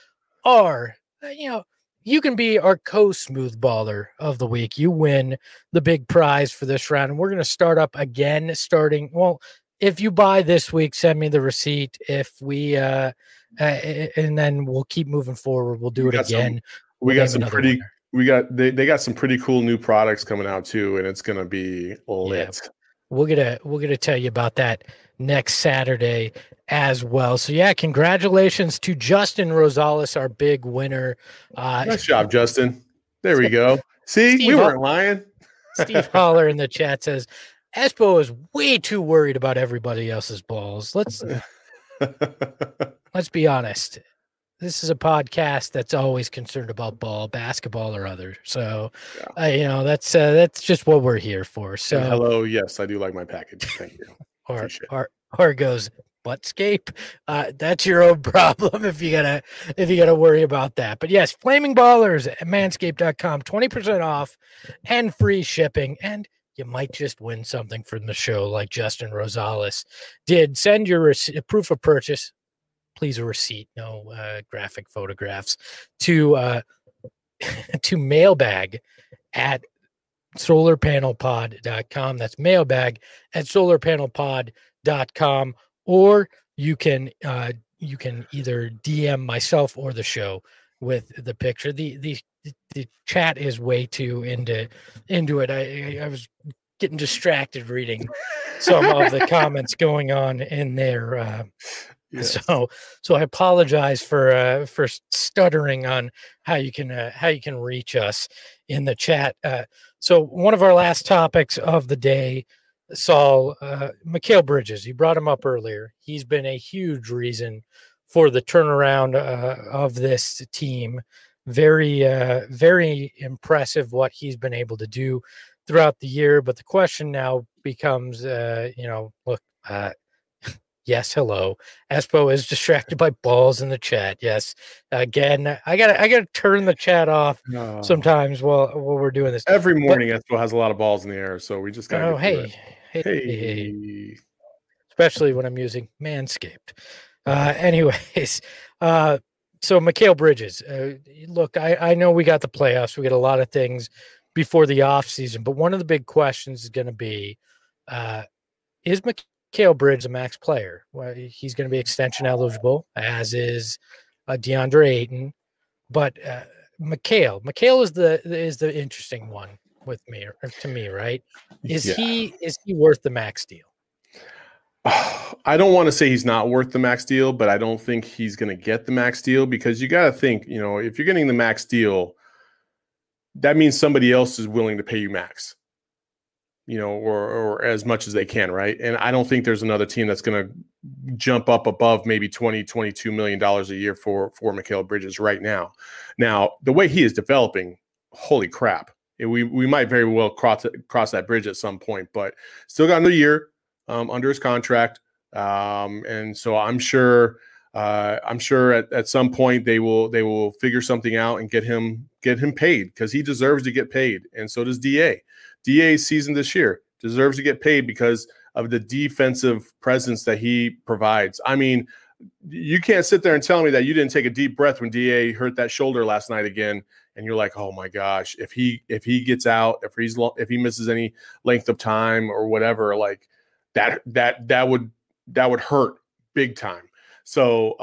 You can be our co-smooth baller of the week. You win the big prize for this round. And we're going to start up again if you buy this week, send me the receipt. If we and then we'll keep moving forward. We'll do it again. They got some pretty cool new products coming out too, and it's gonna be lit. Yeah. We're gonna tell you about that next Saturday as well. So congratulations to Justin Rosales, our big winner. Nice job, Justin. There we go. See, we weren't lying. Steve Holler in the chat says Espo is way too worried about everybody else's balls. Let's be honest. This is a podcast that's always concerned about basketball or other. So, that's just what we're here for. So, and hello, yes, I do like my package. Thank you. or goes Buttscape. That's your own problem if you gotta worry about that. But yes, Flaming Ballers at manscaped.com, 20% off and free shipping, and you might just win something from the show like Justin Rosales did. Send your proof of purchase. Please a receipt, no graphic photographs, to mailbag at solarpanelpod.com. That's mailbag at solarpanelpod.com, or you can either DM myself or the show with the picture. The chat is way too into it. I was getting distracted reading some of the comments going on in there. Yes. So I apologize for stuttering on how you can reach us in the chat. So one of our last topics of the day, Saul, Mikal Bridges, you brought him up earlier. He's been a huge reason for the turnaround of this team. Very, very impressive what he's been able to do throughout the year. But the question now becomes, yes, hello. Espo is distracted by balls in the chat. Yes, again, I gotta turn the chat off sometimes while we're doing this. Every morning, Espo has a lot of balls in the air, so we just gotta. Hey. especially when I'm using Manscaped. Anyways, so Mikal Bridges, look, I know we got the playoffs. We got a lot of things before the offseason, but one of the big questions is going to be, is Mikal Bridges a max player? Well, he's going to be extension eligible, as is DeAndre Ayton. But Mikal is the interesting one with me, or to me, right? Is he worth the max deal? I don't want to say he's not worth the max deal, but I don't think he's going to get the max deal, because you got to think, if you're getting the max deal, that means somebody else is willing to pay you max, or as much as they can, right? And I don't think there's another team that's going to jump up above maybe $22 million a year for Mikal Bridges right now. Now, the way he is developing, holy crap. We might very well cross that bridge at some point, but still got another year under his contract. And so I'm sure at some point they will figure something out and get him paid, because he deserves to get paid. And so does DA's season this year deserves to get paid because of the defensive presence that he provides. I mean, you can't sit there and tell me that you didn't take a deep breath when DA hurt that shoulder last night again, and you're like, oh my gosh, if he gets out, if he misses any length of time or whatever, like that would hurt big time. So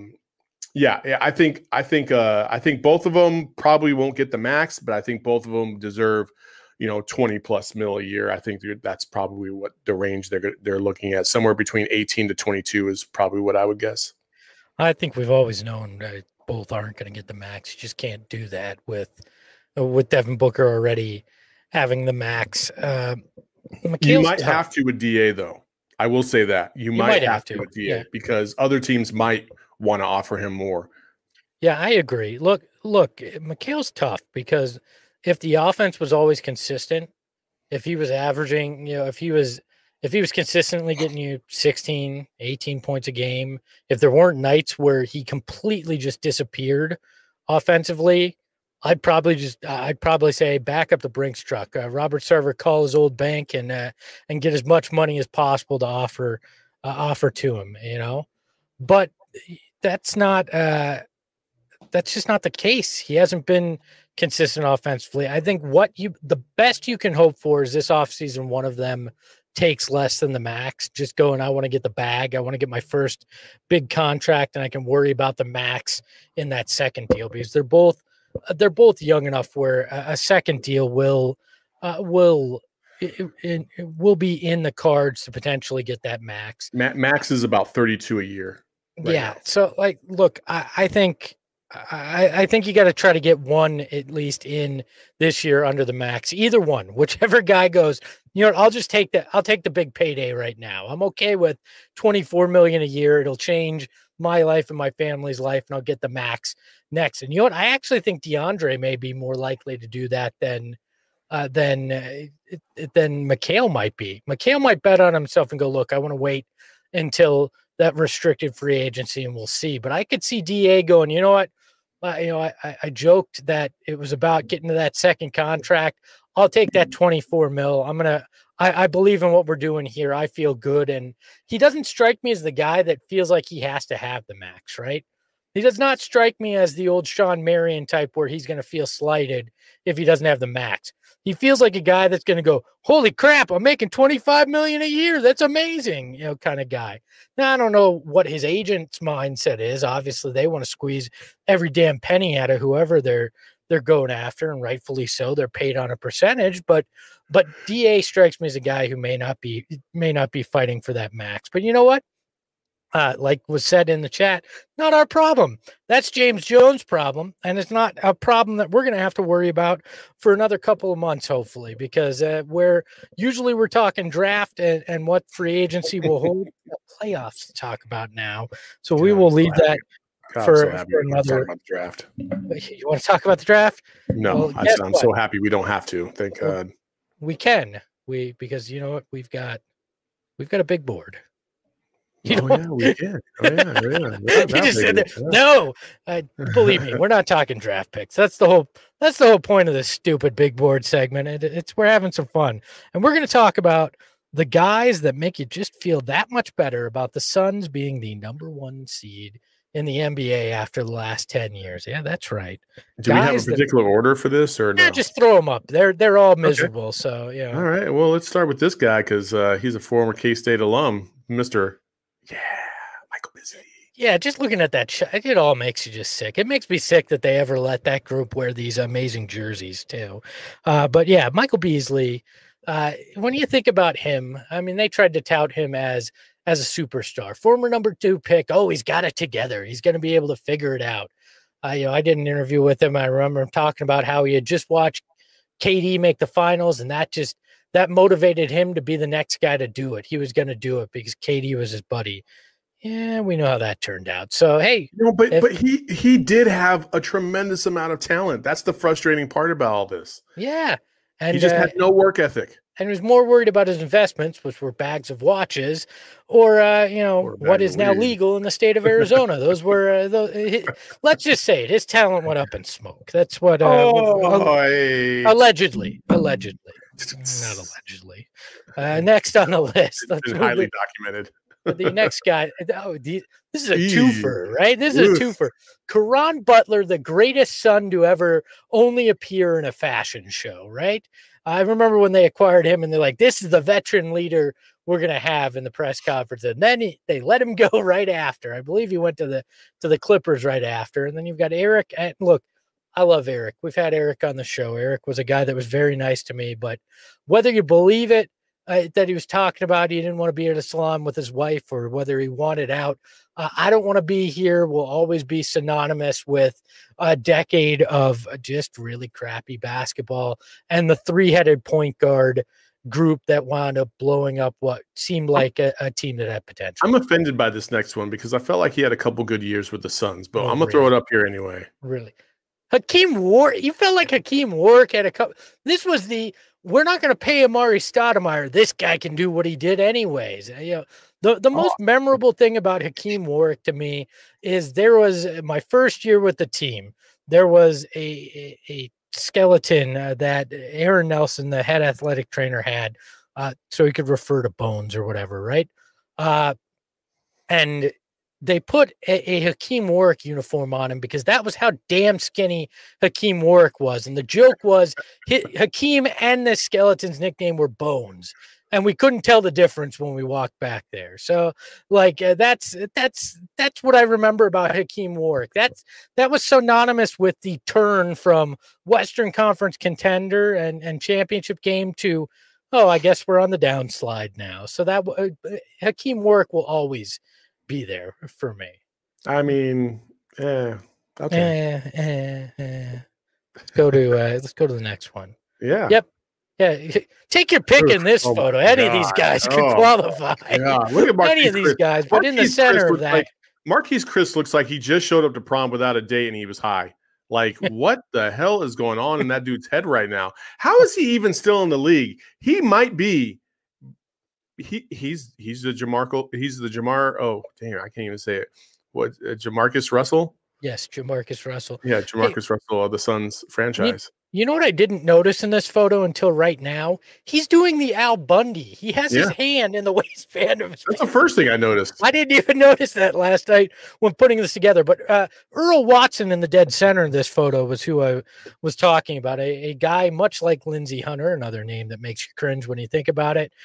I think both of them probably won't get the max, but I think both of them deserve 20 plus mil a year. I think that's probably what the range they're looking at. Somewhere between 18 to 22 is probably what I would guess. I think we've always known both aren't going to get the max. You just can't do that with Devin Booker already having the max. You might have to with DA, though. I will say that you might have to with DA, because other teams might want to offer him more. Yeah, I agree. Look, Mikal's tough, because if the offense was always consistent, if he was averaging, if he was consistently getting you 16, 18 points a game, if there weren't nights where he completely just disappeared offensively, I'd probably say back up the Brinks truck. Robert Sarver, call his old bank and get as much money as possible to offer to him, But that's just not the case. He hasn't been consistent offensively. I think the best you can hope for is this offseason, one of them takes less than the max, just going, I want to get the bag. I want to get my first big contract, and I can worry about the max in that second deal, because they're both young enough where a second deal will be in the cards to potentially get that max. Max is about 32 a year. Now. So look, I think you got to try to get one at least in this year under the max. Either one, whichever guy goes, I'll just take that. I'll take the big payday right now. I'm okay with $24 million a year. It'll change my life and my family's life, and I'll get the max next. And you know what? I actually think DeAndre may be more likely to do that than Mikal might be. Mikal might bet on himself and go, look, I want to wait until that restricted free agency and we'll see. But I could see DA going, you know what? I joked that it was about getting to that second contract. I'll take that 24 mil. I believe in what we're doing here. I feel good. And he doesn't strike me as the guy that feels like he has to have the max, right? He does not strike me as the old Sean Marion type where he's going to feel slighted if he doesn't have the max. He feels like a guy that's going to go, holy crap, I'm making $25 million a year. That's amazing, kind of guy. Now, I don't know what his agent's mindset is. Obviously, they want to squeeze every damn penny out of whoever they're going after, and rightfully so. They're paid on a percentage, but DA strikes me as a guy who may not be fighting for that max. But you know what? Like was said in the chat, not our problem. That's James Jones' problem, and it's not a problem that we're going to have to worry about for another couple of months, hopefully, because we're talking draft and what free agency will hold. Playoffs to talk about now, so we will leave that for another draft. You want to talk about the draft? No, I'm so happy we don't have to. Thank God. We can. Because you know what? We've got a big board. We did. He just said that. No, believe me, we're not talking draft picks. That's the whole point of this stupid big board segment. We're having some fun, and we're going to talk about the guys that make you just feel that much better about the Suns being the number 1 seed in the NBA after the last 10 years. Yeah, that's right. Do we have a particular order for this or no? Yeah, just throw them up. They're all miserable. Okay. So, yeah. All right. Well, let's start with this guy because he's a former K-State alum, Mr. Michael Beasley. Yeah, just looking at that shot, it all makes you just sick. It makes me sick that they ever let that group wear these amazing jerseys too. But yeah, Michael Beasley, when you think about him, I mean, they tried to tout him as a superstar, former number 2 pick. Oh, he's got it together. He's going to be able to figure it out. I did an interview with him. I remember him talking about how he had just watched KD make the finals, and that motivated him to be the next guy to do it. He was going to do it because KD was his buddy. Yeah, we know how that turned out. So, hey. But he did have a tremendous amount of talent. That's the frustrating part about all this. Yeah. And he just had no work ethic. And was more worried about his investments, which were bags of watches, or what is now legal in the state of Arizona. Those were let's just say it. His talent went up in smoke. That's what. Allegedly, not allegedly. Next on the list, it's been highly documented. The next guy. This is a twofer, right? This is a twofer. Caron Butler, the greatest son to ever only appear in a fashion show, right? I remember when they acquired him and they're like, this is the veteran leader we're going to have in the press conference. And then they let him go right after. I believe he went to the Clippers right after. And then you've got Eric. And look, I love Eric. We've had Eric on the show. Eric was a guy that was very nice to me, but whether you believe it, that he was talking about, he didn't want to be at a salon with his wife, or whether he wanted out. I don't want to be here will always be synonymous with a decade of just really crappy basketball and the 3-headed point guard group that wound up blowing up what seemed like a team that had potential. I'm offended by this next one because I felt like he had a couple good years with the Suns, but I'm going to throw it up here anyway. Really? Hakeem Warrick, you felt like Hakeem Warrick had a couple. This was we're not going to pay Amari Stoudemire. This guy can do what he did anyways. The most memorable thing about Hakeem Warrick to me is there was my first year with the team. There was a skeleton that Aaron Nelson, the head athletic trainer, had so he could refer to bones or whatever, right? And they put a Hakeem Warrick uniform on him because that was how damn skinny Hakeem Warrick was. And the joke was Hakeem and the skeleton's nickname were Bones. And we couldn't tell the difference when we walked back there. So like, that's what I remember about Hakeem Warrick. That was synonymous with the turn from Western Conference contender and championship game to, oh, I guess we're on the downslide now. So that Hakeem Warrick will always be there for me. I mean, okay. Let's go to the next one. Yeah. Yep. Yeah. Take your pick in this photo. Any of these guys could qualify. Yeah. Look at any of these guys, but in the center of that. Marquise Chris looks like he just showed up to prom without a date and he was high. Like, what the hell is going on in that dude's head right now? How is he even still in the league? He might be. He's the Jamar. Oh, damn, I can't even say it. What, Jamarcus Russell? Yes, Jamarcus Russell. Yeah, Jamarcus Russell of the Suns franchise. You know what I didn't notice in this photo until right now? He's doing the Al Bundy. He has his hand in the waistband of his That's the first thing I noticed. I didn't even notice that last night when putting this together. But Earl Watson in the dead center of this photo was who I was talking about. A guy much like Lindsey Hunter, another name that makes you cringe when you think about it.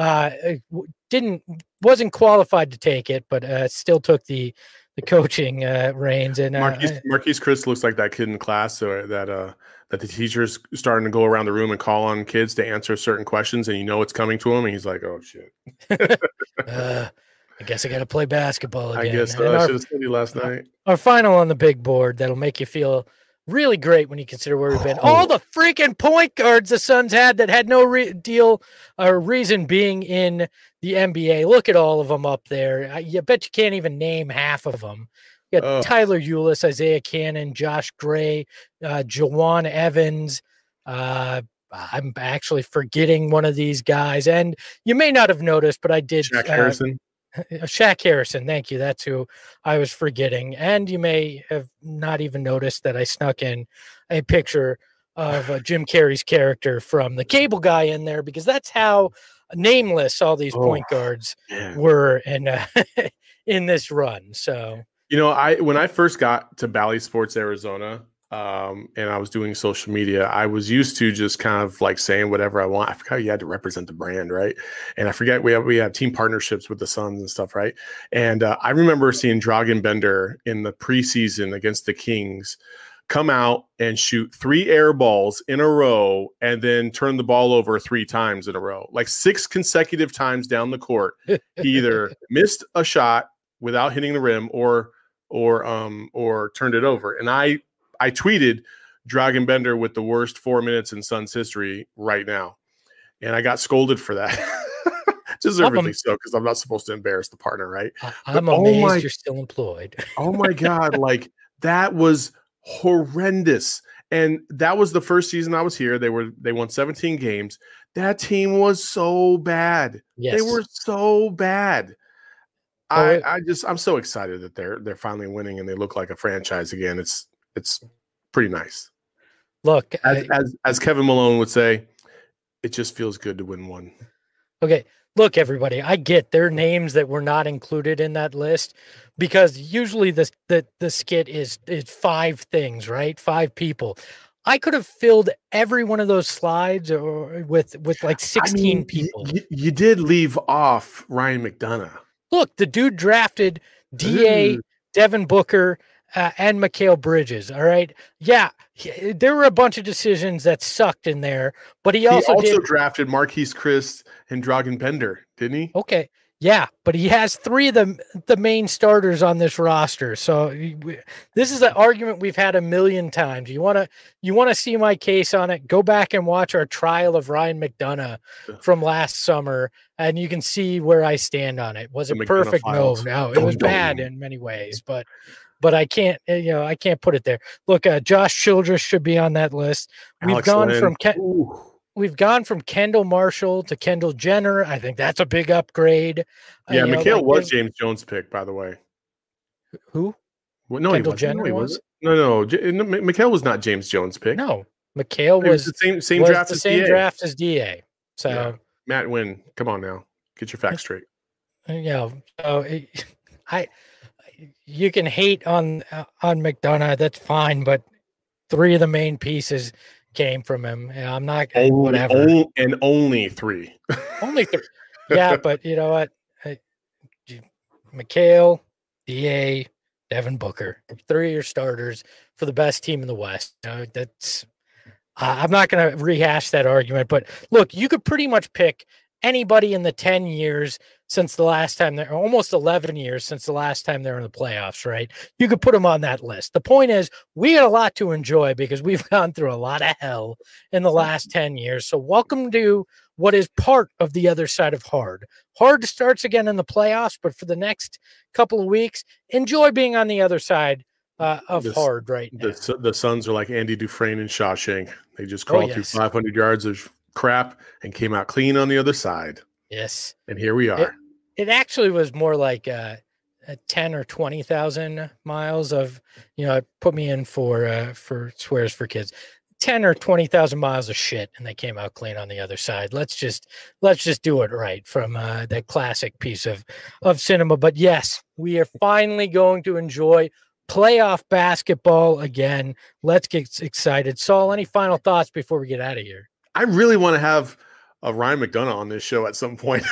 Wasn't qualified to take it, but still took the coaching reins. And Marquise Chris looks like that kid in class, so that the teacher's starting to go around the room and call on kids to answer certain questions, and it's coming to him, and he's like, "Oh shit." I guess I got to play basketball again. I guess so. I should have studied last night. Our final on the big board that'll make you feel really great when you consider where we've been. All the freaking point guards the Suns had that had no deal or reason being in the NBA. Look at all of them up there. I bet you can't even name half of them. You got Tyler Ulis, Isaiah Cannon, Josh Gray, Jawan Evans. I'm actually forgetting one of these guys. And you may not have noticed, but I did. Shaq Harrison. Shaq Harrison, thank you. That's who I was forgetting. And you may have not even noticed that I snuck in a picture of Jim Carrey's character from The Cable Guy in there, because that's how nameless all these point guards were in this run. So, when I first got to Bally Sports Arizona, and I was doing social media, I was used to just kind of like saying whatever I want. I forgot you had to represent the brand, right? And I forget we had team partnerships with the Suns and stuff, right? And I remember seeing Dragan Bender in the preseason against the Kings come out and shoot 3 air balls in a row and then turn the ball over 3 times in a row, like 6 consecutive times down the court. He either missed a shot without hitting the rim or turned it over. And I tweeted Dragan Bender with the worst 4 minutes in Suns history right now. And I got scolded for that. Deservedly so, because I'm not supposed to embarrass the partner, right? I'm amazed you're still employed. Oh my God. Like, that was horrendous. And that was the first season I was here. They won 17 games. That team was so bad. Yes. They were so bad. I'm so excited that they're finally winning and they look like a franchise again. It's pretty nice. Look, as Kevin Malone would say, it just feels good to win one. Okay. Look, everybody, I get their names that were not included in that list because usually the skit is 5 things, right? 5 people. I could have filled every one of those slides or with like 16 people. You did leave off Ryan McDonough. Look, the dude drafted DA, Devin Booker, and Mikal Bridges. All right. Yeah. There were a bunch of decisions that sucked in there, but he also drafted Marquise Chriss and Dragan Bender, didn't he? Okay. Yeah. But he has 3 of the main starters on this roster. So this is an argument we've had a million times. You want to see my case on it? Go back and watch our trial of Ryan McDonough from last summer, and you can see where I stand on it. Was it perfect? No, it was bad in many ways, but I can't, I can't put it there. Look, Josh Childress should be on that list. We've gone from Kendall Marshall to Kendall Jenner. I think that's a big upgrade. Yeah, Mikal was James Jones' pick, by the way. Who? Well, no, Kendall he Jenner was? No. Mikal was not James Jones' pick. No, Mikal was the same draft the as same DA. draft as DA. So yeah. Matt Wynn, come on now, get your facts straight. You can hate on McDonough, that's fine, but 3 of the main pieces came from him. I'm not whatever. Only 3. Only 3. Yeah, but you know what? Mikal, DA, Devin Booker, 3 of your starters for the best team in the West. That's I'm not going to rehash that argument, but look, you could pretty much pick anybody in the 10 years since the last time they're almost 11 years since the last time they're in the playoffs, right? You could put them on that list. The point is we got a lot to enjoy because we've gone through a lot of hell in the last 10 years. So welcome to what is part of the other side of hard. Hard starts again in the playoffs, but for the next couple of weeks, enjoy being on the other side of hard right now. The Suns are like Andy Dufresne and Shawshank. They just crawled through 500 yards of crap and came out clean on the other side. Yes. And here we are. It actually was more like a 10 or 20,000 miles of, put me in for Swears for Kids, 10 or 20,000 miles of shit. And they came out clean on the other side. Let's just do it right from that classic piece of cinema. But yes, we are finally going to enjoy playoff basketball again. Let's get excited. Saul, any final thoughts before we get out of here? I really want to have a Ryan McDonough on this show at some point.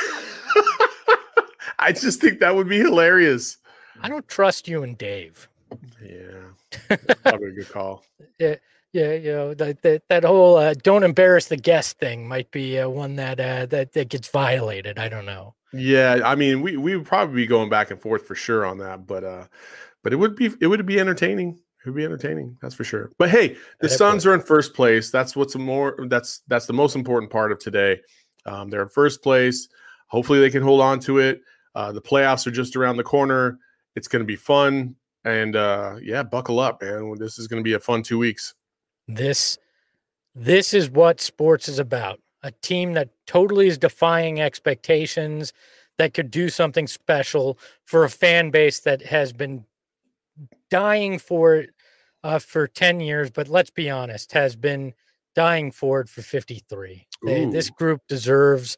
I just think that would be hilarious. I don't trust you and Dave. Yeah, probably a good call. Yeah, that whole don't embarrass the guest thing might be one that gets violated. I don't know. Yeah, I mean, we would probably be going back and forth for sure on that, but it would be entertaining. It would be entertaining, that's for sure. But hey, the Suns are in first place. That's that's the most important part of today. They're in first place. Hopefully they can hold on to it. The playoffs are just around the corner. It's going to be fun. And buckle up, man. This is going to be a fun 2 weeks. This is what sports is about. A team that totally is defying expectations, that could do something special for a fan base that has been dying for 10 years, but let's be honest, has been dying for it for 53. This group deserves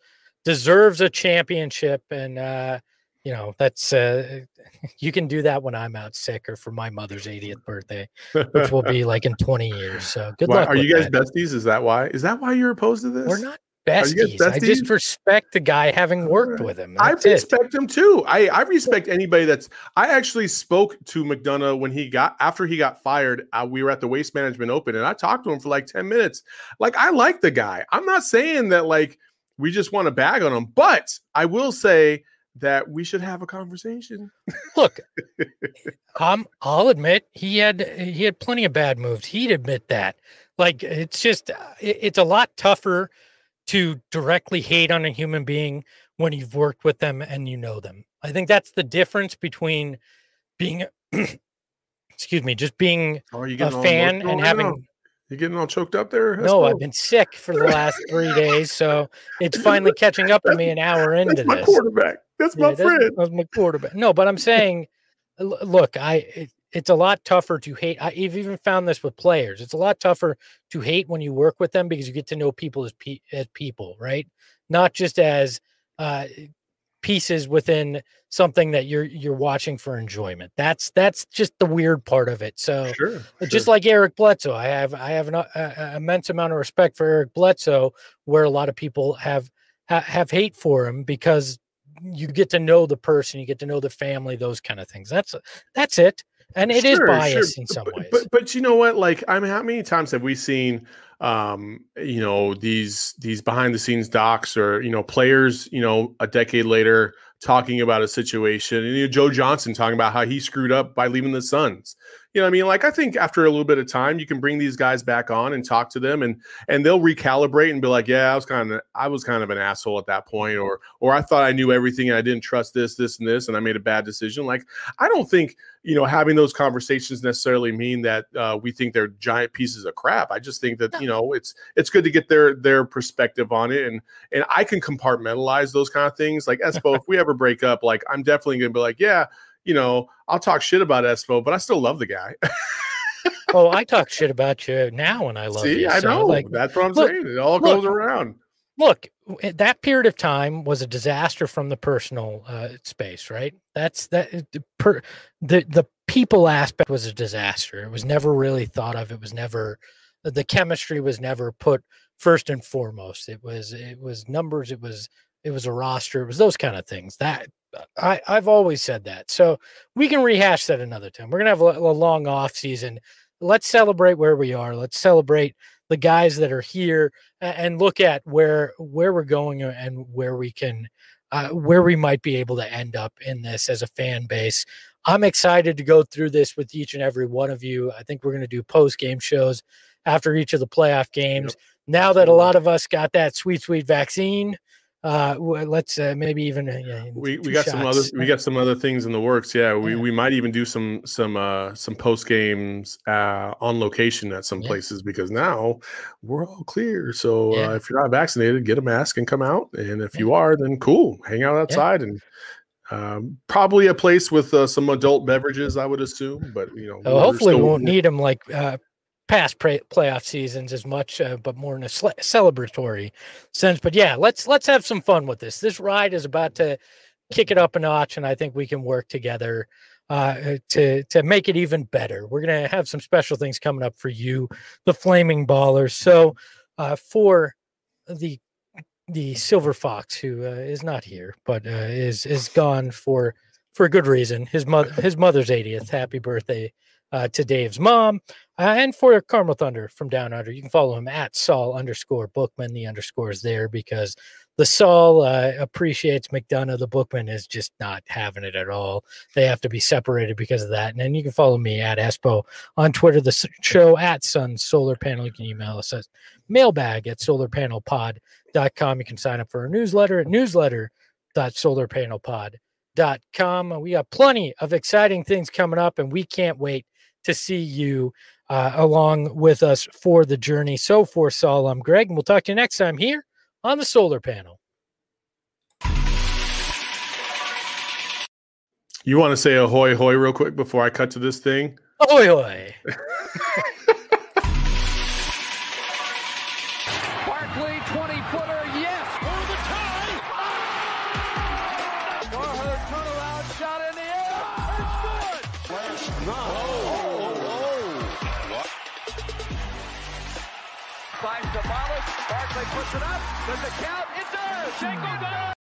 deserves a championship. And, that's you can do that when I'm out sick or for my mother's 80th birthday, which will be like in 20 years. So good luck. Are you guys besties? Is that why? Is that why you're opposed to this? We're not besties. I just respect the guy having worked with him. I respect him too. I respect anybody I actually spoke to McDonough after he got fired. We were at the Waste Management Open and I talked to him for like 10 minutes. Like, I like the guy. I'm not saying that like we just want to bag on him, but I will say that we should have a conversation. Look, I'll admit he had plenty of bad moves. He'd admit that. Like, it's a lot tougher to directly hate on a human being when you've worked with them and you know them. I think that's the difference between being, just being a fan and having. You getting all choked up there? No, I've been sick for the last 3 days, so it's finally catching up to me an hour into this. That's my quarterback. That's my friend. That's my quarterback. No, but I'm saying, look, it's a lot tougher to hate. I've even found this with players. It's a lot tougher to hate when you work with them because you get to know people as people, right? Not just as pieces within something that you're watching for enjoyment. That's just the weird part of it. So sure. Just like Eric Bledsoe, I have an immense amount of respect for Eric Bledsoe, where a lot of people have hate for him because you get to know the person, you get to know the family, those kind of things. That's it. And it is biased in some ways. But you know what? Like, I mean, how many times have we seen, these behind the scenes docs or, players, a decade later talking about a situation, and Joe Johnson talking about how he screwed up by leaving the Suns. You know what I mean? Like, I think after a little bit of time, you can bring these guys back on and talk to them, and they'll recalibrate and be like, yeah, I was kind of an asshole at that point, or I thought I knew everything and I didn't trust this, and this, and I made a bad decision. Like, I don't think, having those conversations necessarily mean that we think they're giant pieces of crap. I just think that, it's good to get their perspective on it. And I can compartmentalize those kind of things. Like, Espo, if we ever break up, like, I'm definitely going to be like, yeah, I'll talk shit about Espo, but I still love the guy. Oh, I talk shit about you now and I love you. I know. Like, that's what I'm saying. It all goes around. Look, that period of time was a disaster from the personal space, right? The people aspect was a disaster. It was never really thought of. It was never, the chemistry was never put first and foremost. It was numbers. It was a roster. It was those kind of things. That I've always said that. So we can rehash that another time. We're going to have a long off season. Let's celebrate where we are. Let's celebrate the guys that are here and look at where we're going and where we can, where we might be able to end up in this as a fan base. I'm excited to go through this with each and every one of you. I think we're going to do post-game shows after each of the playoff games. Yep. Now that a lot of us got that sweet vaccine, let's maybe even we got some other things in the works. Yeah, we might even do some post games on location at some places, because now we're all clear. So if you're not vaccinated, get a mask and come out. And if you are, then cool, hang out outside and probably a place with some adult beverages, I would assume. But hopefully we won't need them like past playoff seasons as much, but more in a celebratory sense. But yeah, let's have some fun with this. This ride is about to kick it up a notch, and I think we can work together to make it even better. We're going to have some special things coming up for you, the Flaming Ballers. So for the Silver Fox, who is not here, but is gone for a good reason. His mother's 80th. Happy birthday to Dave's mom, and for Carmel Thunder from Down Under. You can follow him at Saul_Bookman. The underscore is there because the Saul appreciates McDonough. The Bookman is just not having it at all. They have to be separated because of that. And then you can follow me at Espo on Twitter, the show at Sun Solar Panel. You can email us at mailbag@solarpanelpod.com. You can sign up for our newsletter at newsletter.solarpanelpod.com. We got plenty of exciting things coming up, and we can't wait to see you along with us for the journey. So for Saul, I'm Greg, and we'll talk to you next time here on the Solar Panel. You want to say ahoy hoy real quick before I cut to this thing? Ahoy hoy. Barkley, 20-footer, yes, for the tie. Finds Sabalas. Barkley puts it up. Does it count? It does. Shango got it.